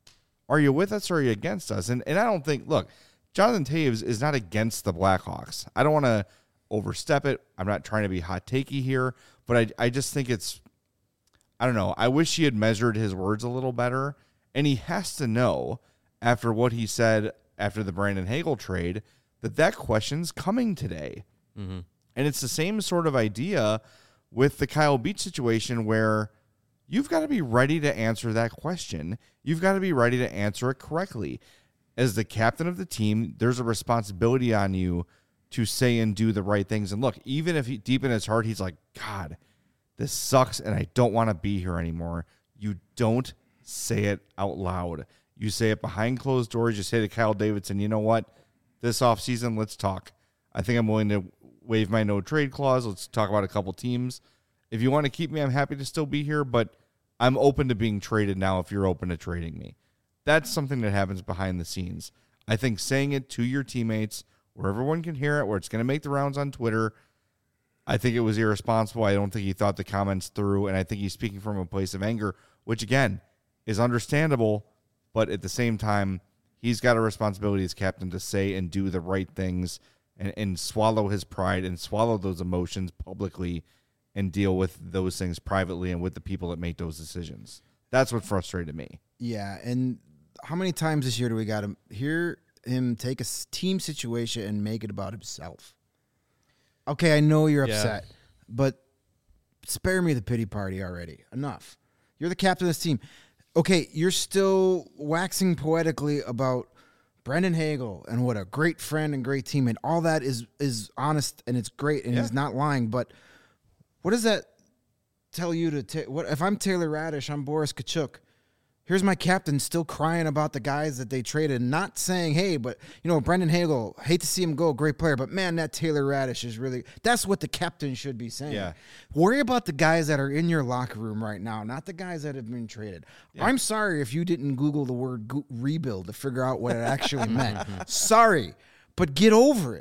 are you with us or are you against us? And and I don't think, look, Jonathan Toews is not against the Blackhawks. I don't want to overstep it. I'm not trying to be hot takey here, but I I just think it's, I don't know. I wish he had measured his words a little better. And he has to know, after what he said after the Brandon Hagel trade, that that question's coming today. Mm-hmm. And it's the same sort of idea with the Kyle Beach situation where you've got to be ready to answer that question. You've got to be ready to answer it correctly. As the captain of the team, there's a responsibility on you to say and do the right things. And look, even if he, deep in his heart, he's like, God, this sucks and I don't want to be here anymore. You don't say it out loud. You say it behind closed doors. You say to Kyle Davidson, you know what? This offseason, let's talk. I think I'm willing to waive my no trade clause. Let's talk about a couple teams. If you want to keep me, I'm happy to still be here, but I'm open to being traded now if you're open to trading me. That's something that happens behind the scenes. I think saying it to your teammates where everyone can hear it, where it's going to make the rounds on Twitter, I think it was irresponsible. I don't think he thought the comments through, and I think he's speaking from a place of anger, which, again, is understandable, but at the same time, he's got a responsibility as captain to say and do the right things and, and swallow his pride and swallow those emotions publicly and deal with those things privately and with the people that make those decisions. That's what frustrated me. Yeah, and how many times this year do we got to hear him take a team situation and make it about himself? Okay, I know you're upset, yeah. but spare me the pity party already. Enough. You're the captain of this team. Okay, you're still waxing poetically about Brandon Hagel and what a great friend and great teammate. All that is is honest and it's great and yeah. he's not lying. But what does that tell you to ta- what if I'm Taylor Radish, I'm Boris Kachuk. Here's my captain still crying about the guys that they traded, not saying, hey, but, you know, Brendan Hagel, hate to see him go, great player, but, man, that Taylor Radish is really – that's what the captain should be saying. Yeah. Worry about the guys that are in your locker room right now, not the guys that have been traded. Yeah. I'm sorry if you didn't Google the word go- rebuild to figure out what it actually meant. Sorry, but get over it.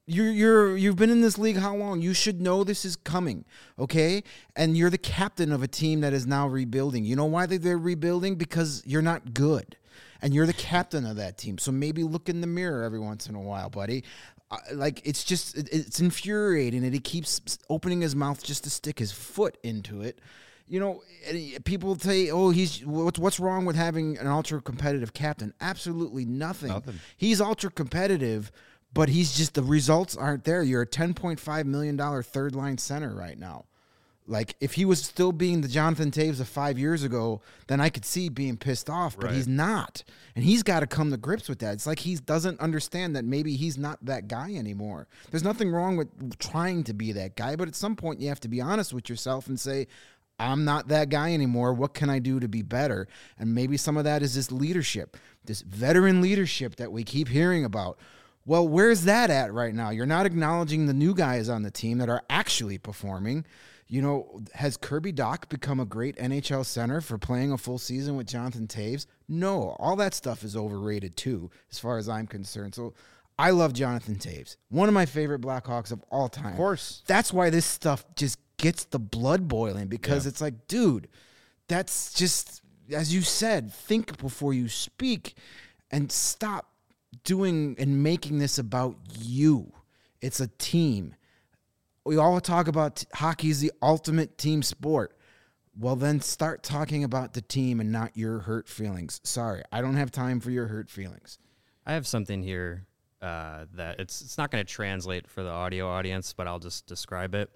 You're you're you've been in this league how long? You should know this is coming, okay? And you're the captain of a team that is now rebuilding. You know why they, they're rebuilding? Because you're not good, and you're the captain of that team. So maybe look in the mirror every once in a while, buddy. Uh, like it's just it, it's infuriating, and he keeps opening his mouth just to stick his foot into it. You know, people say, "Oh, he's what's what's wrong with having an ultra competitive captain?" Absolutely nothing. Nothing. He's ultra competitive. But he's just, the results aren't there. You're a ten point five million dollars third line center right now. Like, if he was still being the Jonathan Toews of five years ago, then I could see being pissed off, but Right. he's not. And he's got to come to grips with that. It's like he doesn't understand that maybe he's not that guy anymore. There's nothing wrong with trying to be that guy, but at some point you have to be honest with yourself and say, I'm not that guy anymore. What can I do to be better? And maybe some of that is this leadership, this veteran leadership that we keep hearing about. Well, where's that at right now? You're not acknowledging the new guys on the team that are actually performing. You know, has Kirby Dach become a great N H L center for playing a full season with Jonathan Toews? No, all that stuff is overrated too, as far as I'm concerned. So I love Jonathan Toews, one of my favorite Blackhawks of all time. Of course. That's why this stuff just gets the blood boiling, because Yeah. it's like, dude, that's just, as you said, think before you speak and stop doing and making this about you. It's a team. We all talk about t- hockey is the ultimate team sport. Well, then start talking about the team and not your hurt feelings. Sorry, I don't have time for your hurt feelings. I have something here uh, that it's it's not going to translate for the audio audience, but I'll just describe it.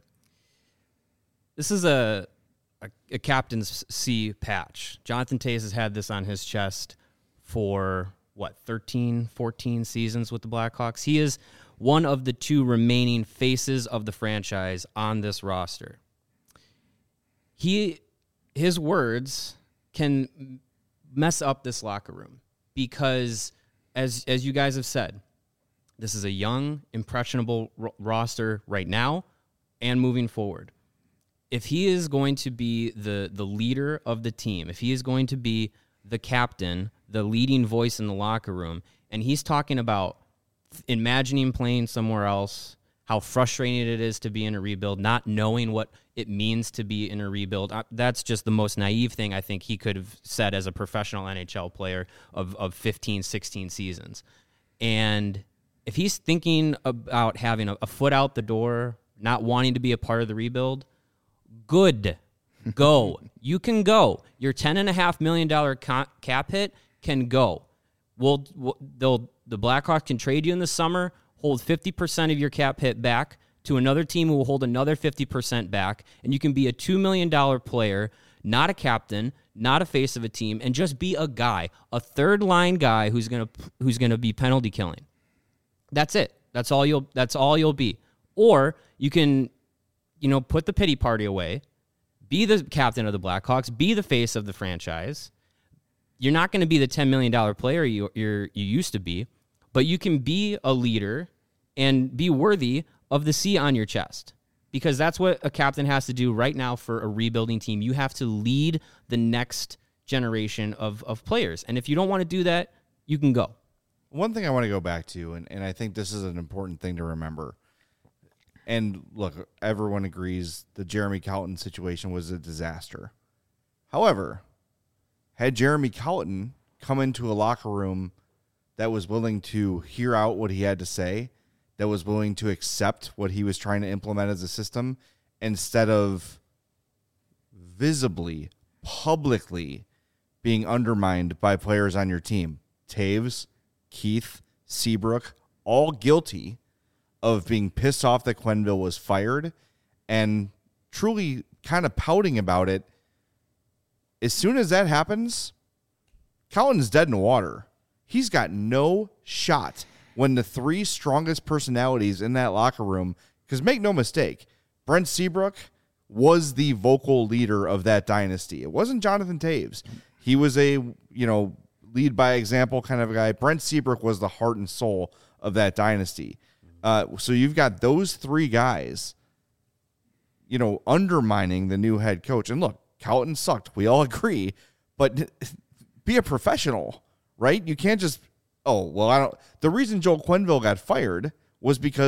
This is a a, a captain's C patch. Jonathan Toews has had this on his chest for what, thirteen, fourteen seasons with the Blackhawks. He is one of the two remaining faces of the franchise on this roster. He, his words can mess up this locker room because, as as you guys have said, this is a young, impressionable ro- roster right now and moving forward. If he is going to be the the leader of the team, if he is going to be the captain, the leading voice in the locker room, and he's talking about imagining playing somewhere else, how frustrating it is to be in a rebuild, not knowing what it means to be in a rebuild. That's just the most naive thing I think he could have said as a professional N H L player of, of fifteen, sixteen seasons. And if he's thinking about having a, a foot out the door, not wanting to be a part of the rebuild, good. Go. You can go. Your ten and a half million dollar cap hit can go. We'll, we'll they'll the Blackhawks can trade you in the summer, hold fifty percent of your cap hit back to another team who will hold another fifty percent back, and you can be a two million dollar player, not a captain, not a face of a team, and just be a guy, a third line guy who's gonna who's gonna be penalty killing. That's it. That's all you'll that's all you'll be. Or you can, you know, put the pity party away. Be the captain of the Blackhawks. Be the face of the franchise. You're not going to be the ten million dollar player you you're, you used to be, but you can be a leader and be worthy of the C on your chest, because that's what a captain has to do right now for a rebuilding team. You have to lead the next generation of, of players. And if you don't want to do that, you can go. One thing I want to go back to, and, and I think this is an important thing to remember, and look, everyone agrees the Jeremy Colliton situation was a disaster. However, had Jeremy Colliton come into a locker room that was willing to hear out what he had to say, that was willing to accept what he was trying to implement as a system, instead of visibly, publicly being undermined by players on your team, Toews, Keith, Seabrook, all guilty of being pissed off that Quenneville was fired and truly kind of pouting about it. As soon as that happens, Colliton's dead in the water. He's got no shot when the three strongest personalities in that locker room, because make no mistake, Brent Seabrook was the vocal leader of that dynasty. It wasn't Jonathan Toews. He was a, you know, lead by example kind of a guy. Brent Seabrook was the heart and soul of that dynasty. Uh, so you've got those three guys, you know, undermining the new head coach. And look, Colliton sucked. We all agree. But be a professional, right? You can't just, oh, well, I don't. The reason Joel Quenneville got fired was because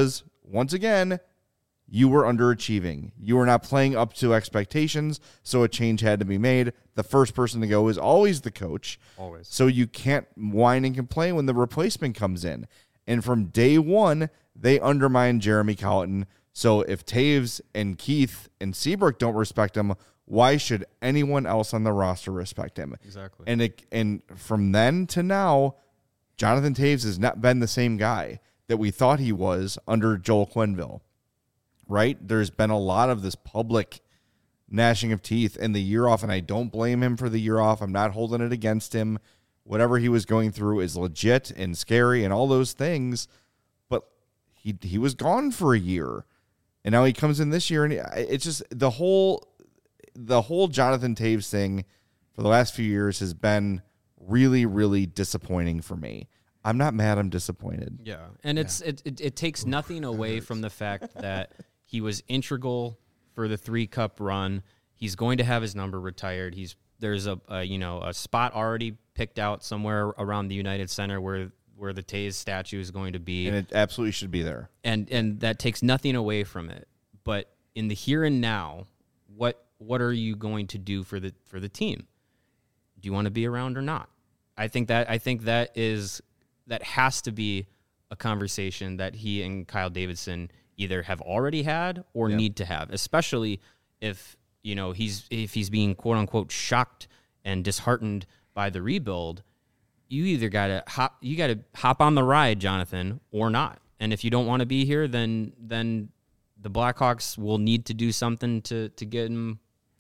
once again, you were underachieving. You were not playing up to expectations, so a change had to be made. The first person to go is always the coach. Always. So you can't whine and complain when the replacement comes in. And from day one, they undermined Jeremy Colliton. So if Taves and Keith and Seabrook don't respect him, why should anyone else on the roster respect him? Exactly. And it, and from then to now, Jonathan Taves has not been the same guy that we thought he was under Joel Quenneville. Right? There's been a lot of this public gnashing of teeth and the year off, and I don't blame him for the year off. I'm not holding it against him. Whatever he was going through is legit and scary and all those things, but he he was gone for a year, and now he comes in this year, and it's just the whole the whole Jonathan Taves thing for the last few years has been really, really disappointing for me. I'm not mad. I'm disappointed. Yeah, and it's it, it it takes nothing away from the fact that he was integral for the three cup run. He's going to have his number retired. He's there's a, a you know a spot already picked out somewhere around the United Center where where the Taves statue is going to be, And it absolutely should be there. and and that takes nothing away from it. But in the here and now, what what are you going to do for the for the team? Do you want to be around or not? I think that I think that is that has to be a conversation that he and Kyle Davidson either have already had or Yeah. need to have, especially if you know he's if he's being quote unquote shocked and disheartened by the rebuild. You either gotta hop you gotta hop on the ride, Jonathan, or not. And if you don't want to be here, then then the Blackhawks will need to do something to to get him.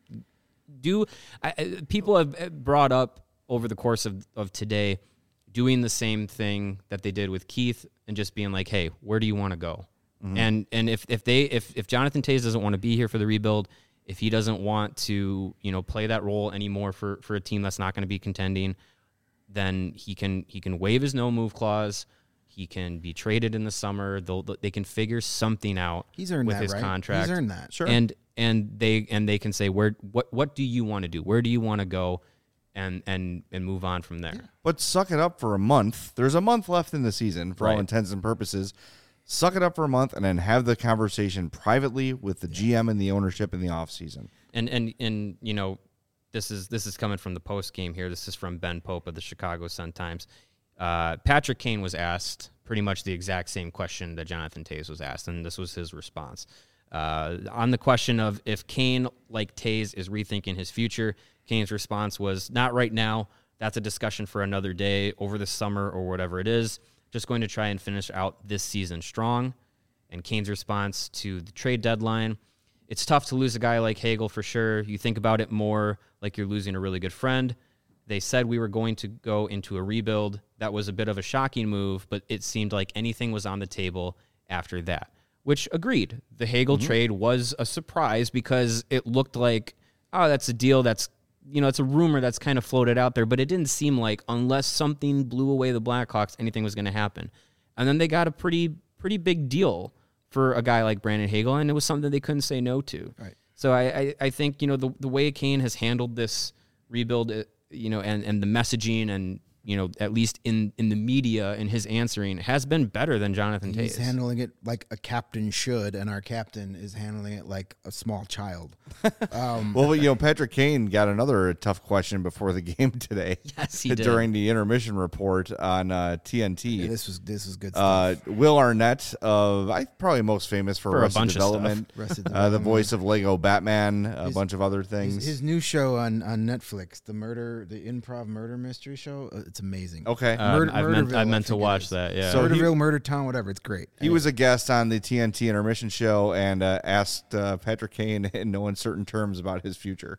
Do I, I- people have brought up over the course of, of today doing the same thing that they did with Keith and just being like, hey, where do you want to go? Mm-hmm. And and if, if they if, if Jonathan Taves doesn't want to be here for the rebuild, if he doesn't want to, you know, play that role anymore for, for a team that's not going to be contending, then he can he can waive his no move clause. He can be traded in the summer. They'll they can figure something out He's earned with that, his right? contract. He's earned that. Sure. And and they and they can say where what what do you want to do? Where do you want to go? And and and move on from there. But suck it up for a month. There's a month left in the season for all Right. intents and purposes. Suck it up for a month and then have the conversation privately with the G M and the ownership in the offseason. And and and you know, this is this is coming from the post game here. This is from Ben Pope of the Chicago Sun-Times. Uh, Patrick Kane was asked pretty much the exact same question that Jonathan Taves was asked, and this was his response. Uh, on the question of if Kane, like Taves, is rethinking his future, Kane's response was, not right now. That's a discussion for another day, over the summer or whatever it is. Just going to try and finish out this season strong. And Kane's response to the trade deadline, it's tough to lose a guy like Hagel for sure. You think about it more like you're losing a really good friend. They said we were going to go into a rebuild. That was a bit of a shocking move, but it seemed like anything was on the table after that, which agreed. The Hagel trade was a surprise because it looked like, oh, that's a deal that's, you know, it's a rumor that's kind of floated out there, but it didn't seem like unless something blew away the Blackhawks, anything was going to happen. And then they got a pretty, pretty big deal for a guy like Brandon Hagel, and it was something they couldn't say no to. Right. So I, I, I think, you know, the, the way Kane has handled this rebuild, uh, you know, and, and the messaging and, you know, at least in, in the media and his answering has been better than Jonathan Taves. He's handling it like a captain should, and our captain is handling it like a small child. Um, Well, you know, Patrick Kane got another tough question before the game today. Yes, he did. During the intermission report on uh, T N T. yeah, this was this was good Uh, stuff. Will Arnett, of I probably most famous for, For a Arrested bunch of stuff. Development, Arrested uh, the Development. voice of Lego Batman, a His- bunch of other his, things. his new show on, on Netflix, the murder, the improv murder mystery show. uh, It's amazing. okay, Um, Murder- I've meant, Murderville, I I meant to think it watch is. that, yeah. So he- Murderville, Murder Town, whatever. It's great. he was a guest on the T N T intermission show and uh, asked uh, Patrick Kane in no uncertain terms about his future.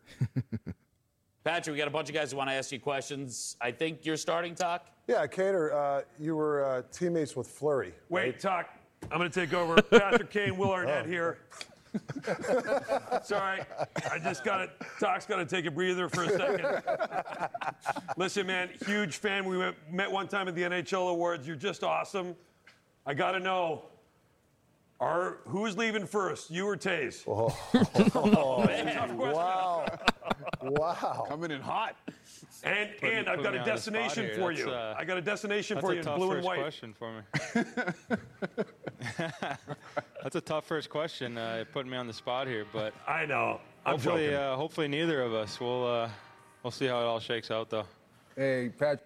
Patrick, we got a bunch of guys who want to ask you questions. I think you're starting, Talk. Yeah, Cater, uh, you were uh, teammates with Fleury. Wait, Talk. I'm going to take over. Patrick Kane, Will Arnett here. Sorry, I just got to, Talk's got to take a breather for a second. Listen, man, huge fan. We met, met one time at the N H L Awards. You're just awesome. I got to know, are who's leaving first, you or Taze? Oh, Tough question. wow. Wow. Coming in hot. And, Putting- and I've got putting a me on the spot destination here. for That's, you. uh, I got a destination That's for a you in tough blue and first white. question for me. That's a tough first question. Uh, putting me on the spot here, but I know. I'm hopefully, joking. uh, hopefully neither of us. We'll uh, we'll see how it all shakes out, though. Hey, Pat.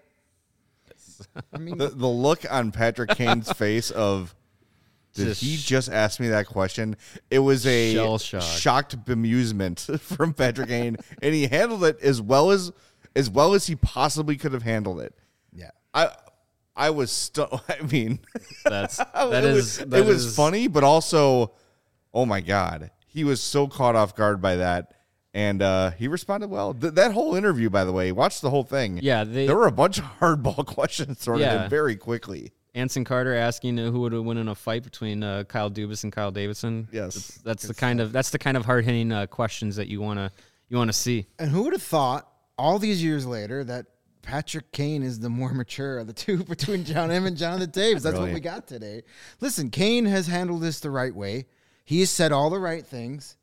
I mean, The, the look on Patrick Kane's face of, did Just he just ask me that question? It was a Shell shock. shocked bemusement from Patrick Kane, and he handled it as well as as well as he possibly could have handled it. yeah. I I was stu- I mean, That's that it is was, that it was is- funny, but also, oh my god, he was so caught off guard by that, and uh, he responded well. Th- that whole interview, by the way, watch the whole thing. Yeah, they- there were a bunch of hardball questions thrown at Yeah. him very quickly. Anson Carter asking uh, who would win in a fight between uh, Kyle Dubas and Kyle Davidson. Yes. that's, that's the kind of that's the kind of hard hitting uh, questions that you wanna you wanna see. And who would have thought all these years later that Patrick Kane is the more mature of the two between John M and Jonathan Taves? That's Really? what we got today. Listen, Kane has handled this the right way. He has said all the right things.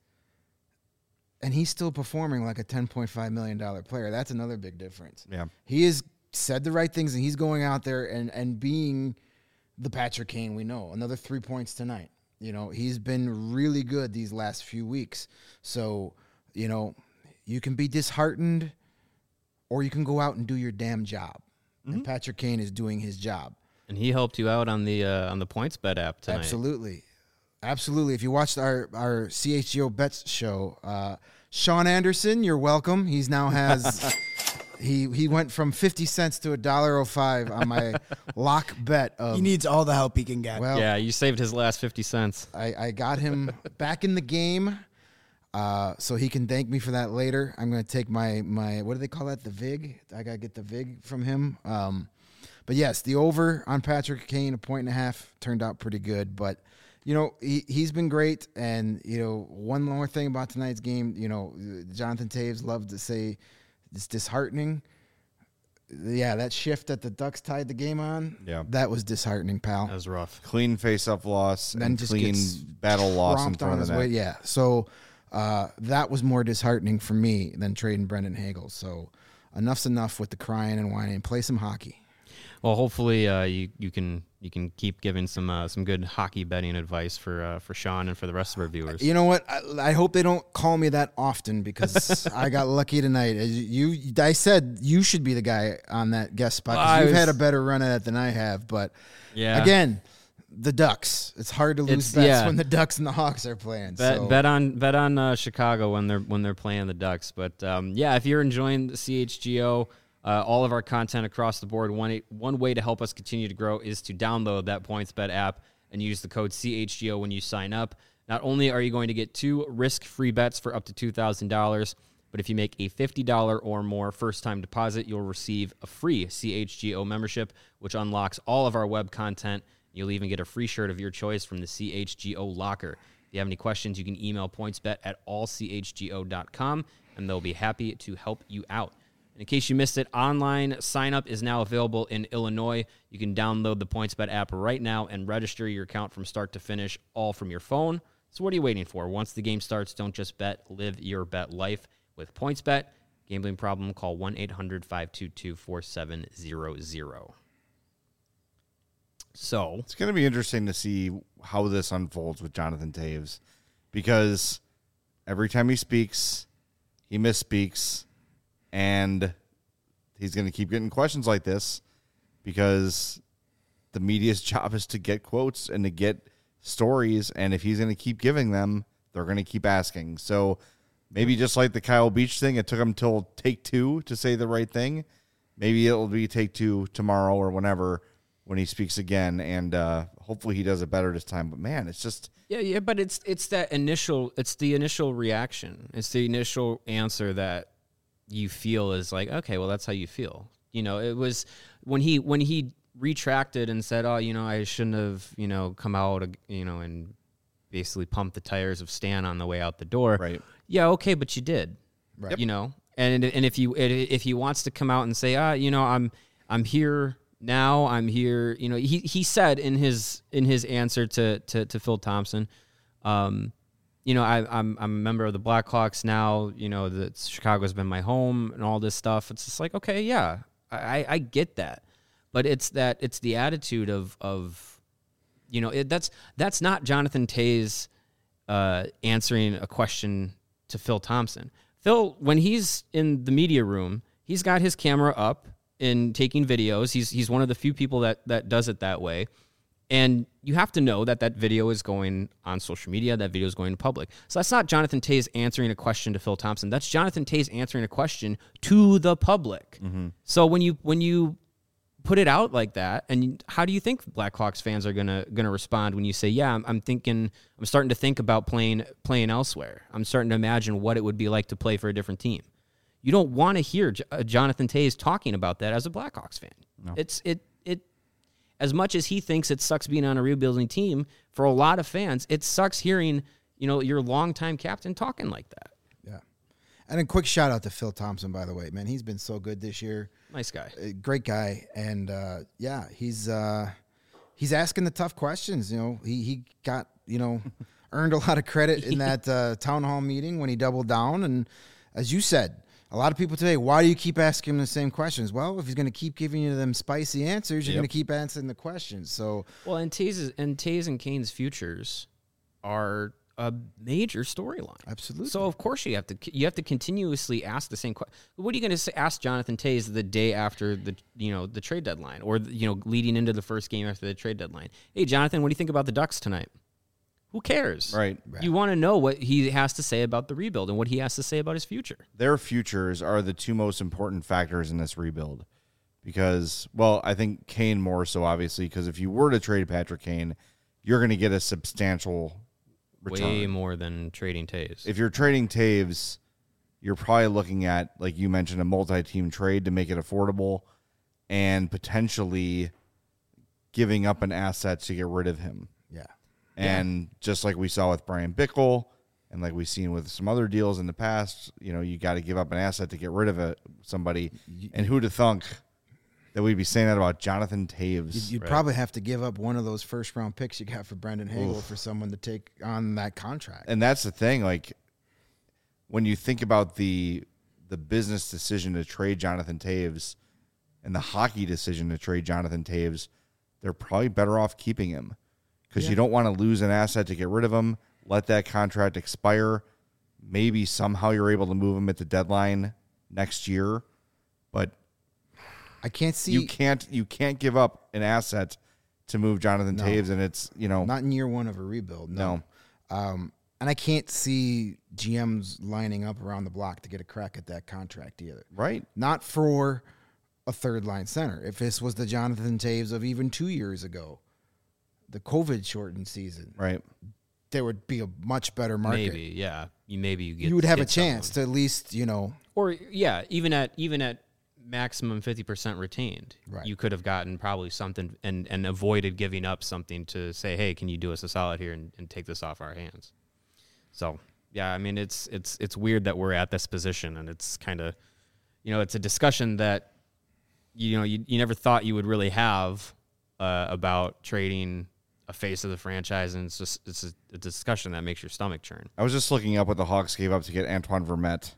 And he's still performing like a ten point five million dollars player. That's another big difference. Yeah. He has said the right things, and he's going out there and, and being the Patrick Kane we know. Another three points tonight. You know, he's been really good these last few weeks. So, you know, you can be disheartened or you can go out and do your damn job. And Patrick Kane is doing his job. And he helped you out on the uh, on the points bet app tonight. Absolutely. Absolutely. If you watched our, our C H G O Bets show, uh, Sean Anderson, you're welcome. He's now has he he went from fifty cents to a dollar oh five on my lock bet of He needs all the help he can get. well Yeah, you saved his last fifty cents. I, I got him back in the game. Uh, so he can thank me for that later. I'm going to take my, my, what do they call that? The vig. I got to get the vig from him. Um, but yes, the over on Patrick Kane, a point and a half, turned out pretty good. But, you know, he, he's been great. And, you know, one more thing about tonight's game, you know, Jonathan Taves loved to say it's disheartening. Yeah, that shift that the Ducks tied the game on, Yeah. that was disheartening, pal. That was rough. Clean face-off loss Then and just clean gets battle loss in tromped front on of his the way. net. Yeah. So uh, that was more disheartening for me than trading Brendan Hagel. So enough's enough with the crying and whining. Play some hockey. Well, hopefully uh, you you can you can keep giving some uh, some good hockey betting advice for uh, for Sean and for the rest of our viewers. You know what? I, I hope they don't call me that often because I got lucky tonight. As you, I said you should be the guy on that guest spot because Well, I you've was- had a better run at it than I have. But Yeah. again, the Ducks. It's hard to lose It's- bets yeah. when the Ducks and the Hawks are playing. Bet, so. bet on bet on uh, Chicago when they're when they're playing the Ducks. But um, yeah, if you're enjoying the C H G O, uh, all of our content across the board, one one way to help us continue to grow is to download that PointsBet app and use the code C H G O when you sign up. Not only are you going to get two risk-free bets for up to two thousand dollars, but if you make a fifty dollars or more first-time deposit, you'll receive a free C H G O membership, which unlocks all of our web content. You'll even get a free shirt of your choice from the C H G O locker. If you have any questions, you can email pointsbet at all c h g o dot com, and they'll be happy to help you out. And in case you missed it, online sign-up is now available in Illinois. You can download the PointsBet app right now and register your account from start to finish, all from your phone. So what are you waiting for? Once the game starts, don't just bet, live your bet life with PointsBet. Gambling problem, call one eight hundred five two two four seven zero zero. So It's going to be interesting to see how this unfolds with Jonathan Taves because every time he speaks, he misspeaks, and he's going to keep getting questions like this because the media's job is to get quotes and to get stories, and if he's going to keep giving them, they're going to keep asking. So maybe just like the Kyle Beach thing, it took him till take two to say the right thing. Maybe it'll be take two tomorrow or whenever when he speaks again, and uh, hopefully he does it better this time. But man, it's just yeah, yeah, but it's it's that initial, it's the initial reaction, it's the initial answer that you feel is like, okay, well, that's how you feel. You know, it was when he when he retracted and said, oh, you know, I shouldn't have, you know, come out, you know, and basically pump the tires of Stan on the way out the door. Right. Yeah, okay, but you did. Right. You know, and and if you if he wants to come out and say, ah, you know, I'm I'm here now, I'm here. You know, he he said in his in his answer to to, to Phil Thompson, um, you know, I, I'm I'm a member of the Blackhawks now. You know, that Chicago's been my home and all this stuff. It's just like, okay, yeah, I I get that, but it's that it's the attitude of of You know, it, that's that's not Jonathan Toews uh, answering a question to Phil Thompson. Phil, when he's in the media room, he's got his camera up and taking videos. He's he's one of the few people that that does it that way. And you have to know that that video is going on social media, that video is going to public. So that's not Jonathan Toews answering a question to Phil Thompson. That's Jonathan Toews answering a question to the public. Mm-hmm. So when you when you put it out like that, and how do you think Blackhawks fans are gonna gonna respond when you say, "Yeah, I'm, I'm thinking, I'm starting to think about playing playing elsewhere. I'm starting to imagine what it would be like to play for a different team." You don't want to hear J- uh, Jonathan Toews talking about that as a Blackhawks fan. No. It's it it. As much as he thinks it sucks being on a rebuilding team, for a lot of fans, it sucks hearing, you know, your longtime captain talking like that. Yeah. And a quick shout out to Phil Thompson, by the way, man. He's been so good this year. Nice guy. A great guy. And uh, yeah, he's uh, he's asking the tough questions. You know, he he got, you know, earned a lot of credit in that uh, town hall meeting when he doubled down. And as you said, a lot of people today, why do you keep asking him the same questions? Well, if he's going to keep giving you them spicy answers, you're Yep. going to keep answering the questions. So, Well, and Toews and Toews and Kane's futures are a major storyline. Absolutely. So of course you have to you have to continuously ask the same question. What are you going to ask Jonathan Toews the day after the you know the trade deadline, or you know leading into the first game after the trade deadline? Hey, Jonathan, what do you think about the Ducks tonight? Who cares? Right. You want to know what he has to say about the rebuild and what he has to say about his future. Their futures are the two most important factors in this rebuild. Because, well, I think Kane more so, obviously, because if you were to trade Patrick Kane, you're going to get a substantial return. Way more than trading Toews. If you're trading Toews, you're probably looking at, like you mentioned, a multi-team trade to make it affordable and potentially giving up an asset to get rid of him. yeah. And yeah. just like we saw with Brian Bickle and like we've seen with some other deals in the past, you know, you got to give up an asset to get rid of a, somebody. And who'd have thunk that we'd be saying that about Jonathan Toews? You'd, you'd right? probably have to give up one of those first-round picks you got for Brendan Hagel Oof. for someone to take on that contract. And that's the thing. Like, when you think about the the business decision to trade Jonathan Toews and the hockey decision to trade Jonathan Toews, they're probably better off keeping him. Because yeah. you don't want to lose an asset to get rid of him, let that contract expire. Maybe somehow you're able to move him at the deadline next year, but I can't see you can't you can't give up an asset to move Jonathan no. Toews, and it's you know not in year one of a rebuild. No, no. Um, and I can't see G Ms lining up around the block to get a crack at that contract either. Right, not for a third line center. If this was the Jonathan Toews of even two years ago, the COVID shortened season, right, there would be a much better market. Maybe, yeah. You maybe you get you would have a get chance someone. to at least you know, or yeah, even at even at maximum fifty percent retained, right. you could have gotten probably something and and avoided giving up something to say, hey, can you do us a solid here and, and take this off our hands? So yeah, I mean it's it's it's weird that we're at this position, and it's kind of you know it's a discussion that you know you you never thought you would really have uh, about trading a face of the franchise, and it's just it's a, a discussion that makes your stomach churn. I was just looking up what the Hawks gave up to get Antoine Vermette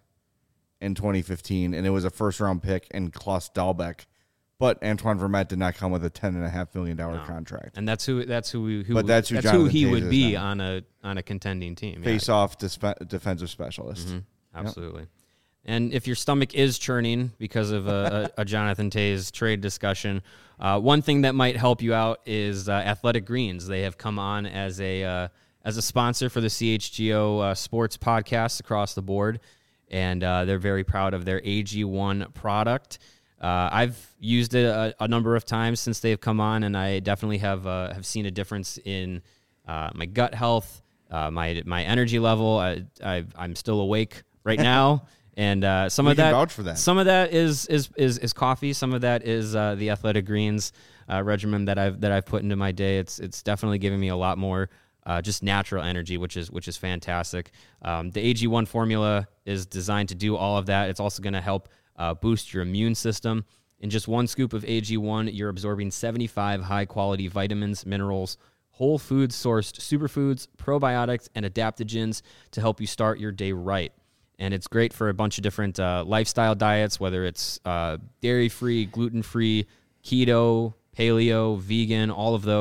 in twenty fifteen, and it was a first-round pick and Klaus Dahlbeck, but Antoine Vermette did not come with a ten and a half million dollar no. contract. And that's who that's who we, who but that's who, that's who he Toews would be now. on a on a contending team. Face-off disp- defensive specialist. Mm-hmm. Absolutely. Yep. And if your stomach is churning because of a, a, a Jonathan Toews trade discussion, uh, one thing that might help you out is uh, Athletic Greens. They have come on as a uh, as a sponsor for the C H G O uh, sports podcasts across the board, and uh, they're very proud of their A G one product. Uh, I've used it a, a number of times since they've come on, and I definitely have uh, have seen a difference in uh, my gut health, uh, my my energy level. I, I I'm still awake right now. And uh, some we of that, vouch for that, some of that is is is, is coffee. Some of that is uh, the Athletic Greens uh, regimen that I've that I've put into my day. It's it's definitely giving me a lot more uh, just natural energy, which is which is fantastic. Um, the A G one formula is designed to do all of that. It's also going to help uh, boost your immune system. In just one scoop of A G one, you're absorbing seventy-five high quality vitamins, minerals, whole food sourced superfoods, probiotics, and adaptogens to help you start your day right. And it's great for a bunch of different uh, lifestyle diets, whether it's uh, dairy-free, gluten-free, keto, paleo, vegan, all of those.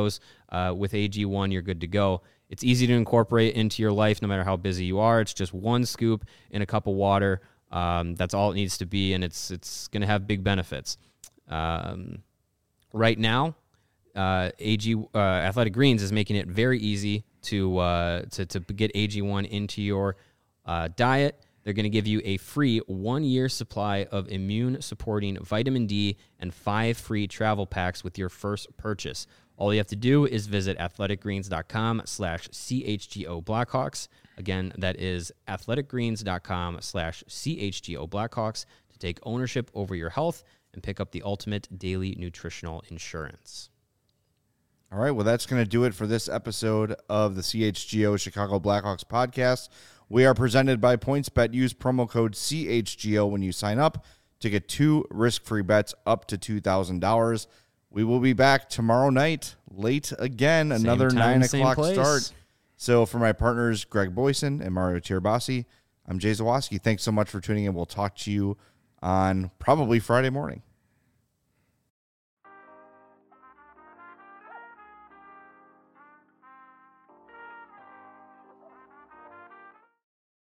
uh, with A G one, you're good to go. It's easy to incorporate into your life no matter how busy you are. It's just one scoop in a cup of water. Um, that's all it needs to be, and it's it's going to have big benefits. Um, right now, uh, A G uh, Athletic Greens is making it very easy to uh, to to get A G one into your uh, diet. They're going to give you a free one-year supply of immune-supporting vitamin D and five free travel packs with your first purchase. All you have to do is visit athleticgreens.com slash CHGO Blackhawks. Again, that is athleticgreens.com slash CHGO Blackhawks to take ownership over your health and pick up the ultimate daily nutritional insurance. All right, well, that's going to do it for this episode of the C H G O Chicago Blackhawks podcast. We are presented by PointsBet. Use promo code C H G O when you sign up to get two risk-free bets up to two thousand dollars. We will be back tomorrow night, late again, Same another time, nine same o'clock place. start. So for my partners, Greg Boyson and Mario Tirabassi, I'm Jay Zawaski. Thanks so much for tuning in. We'll talk to you on probably Friday morning.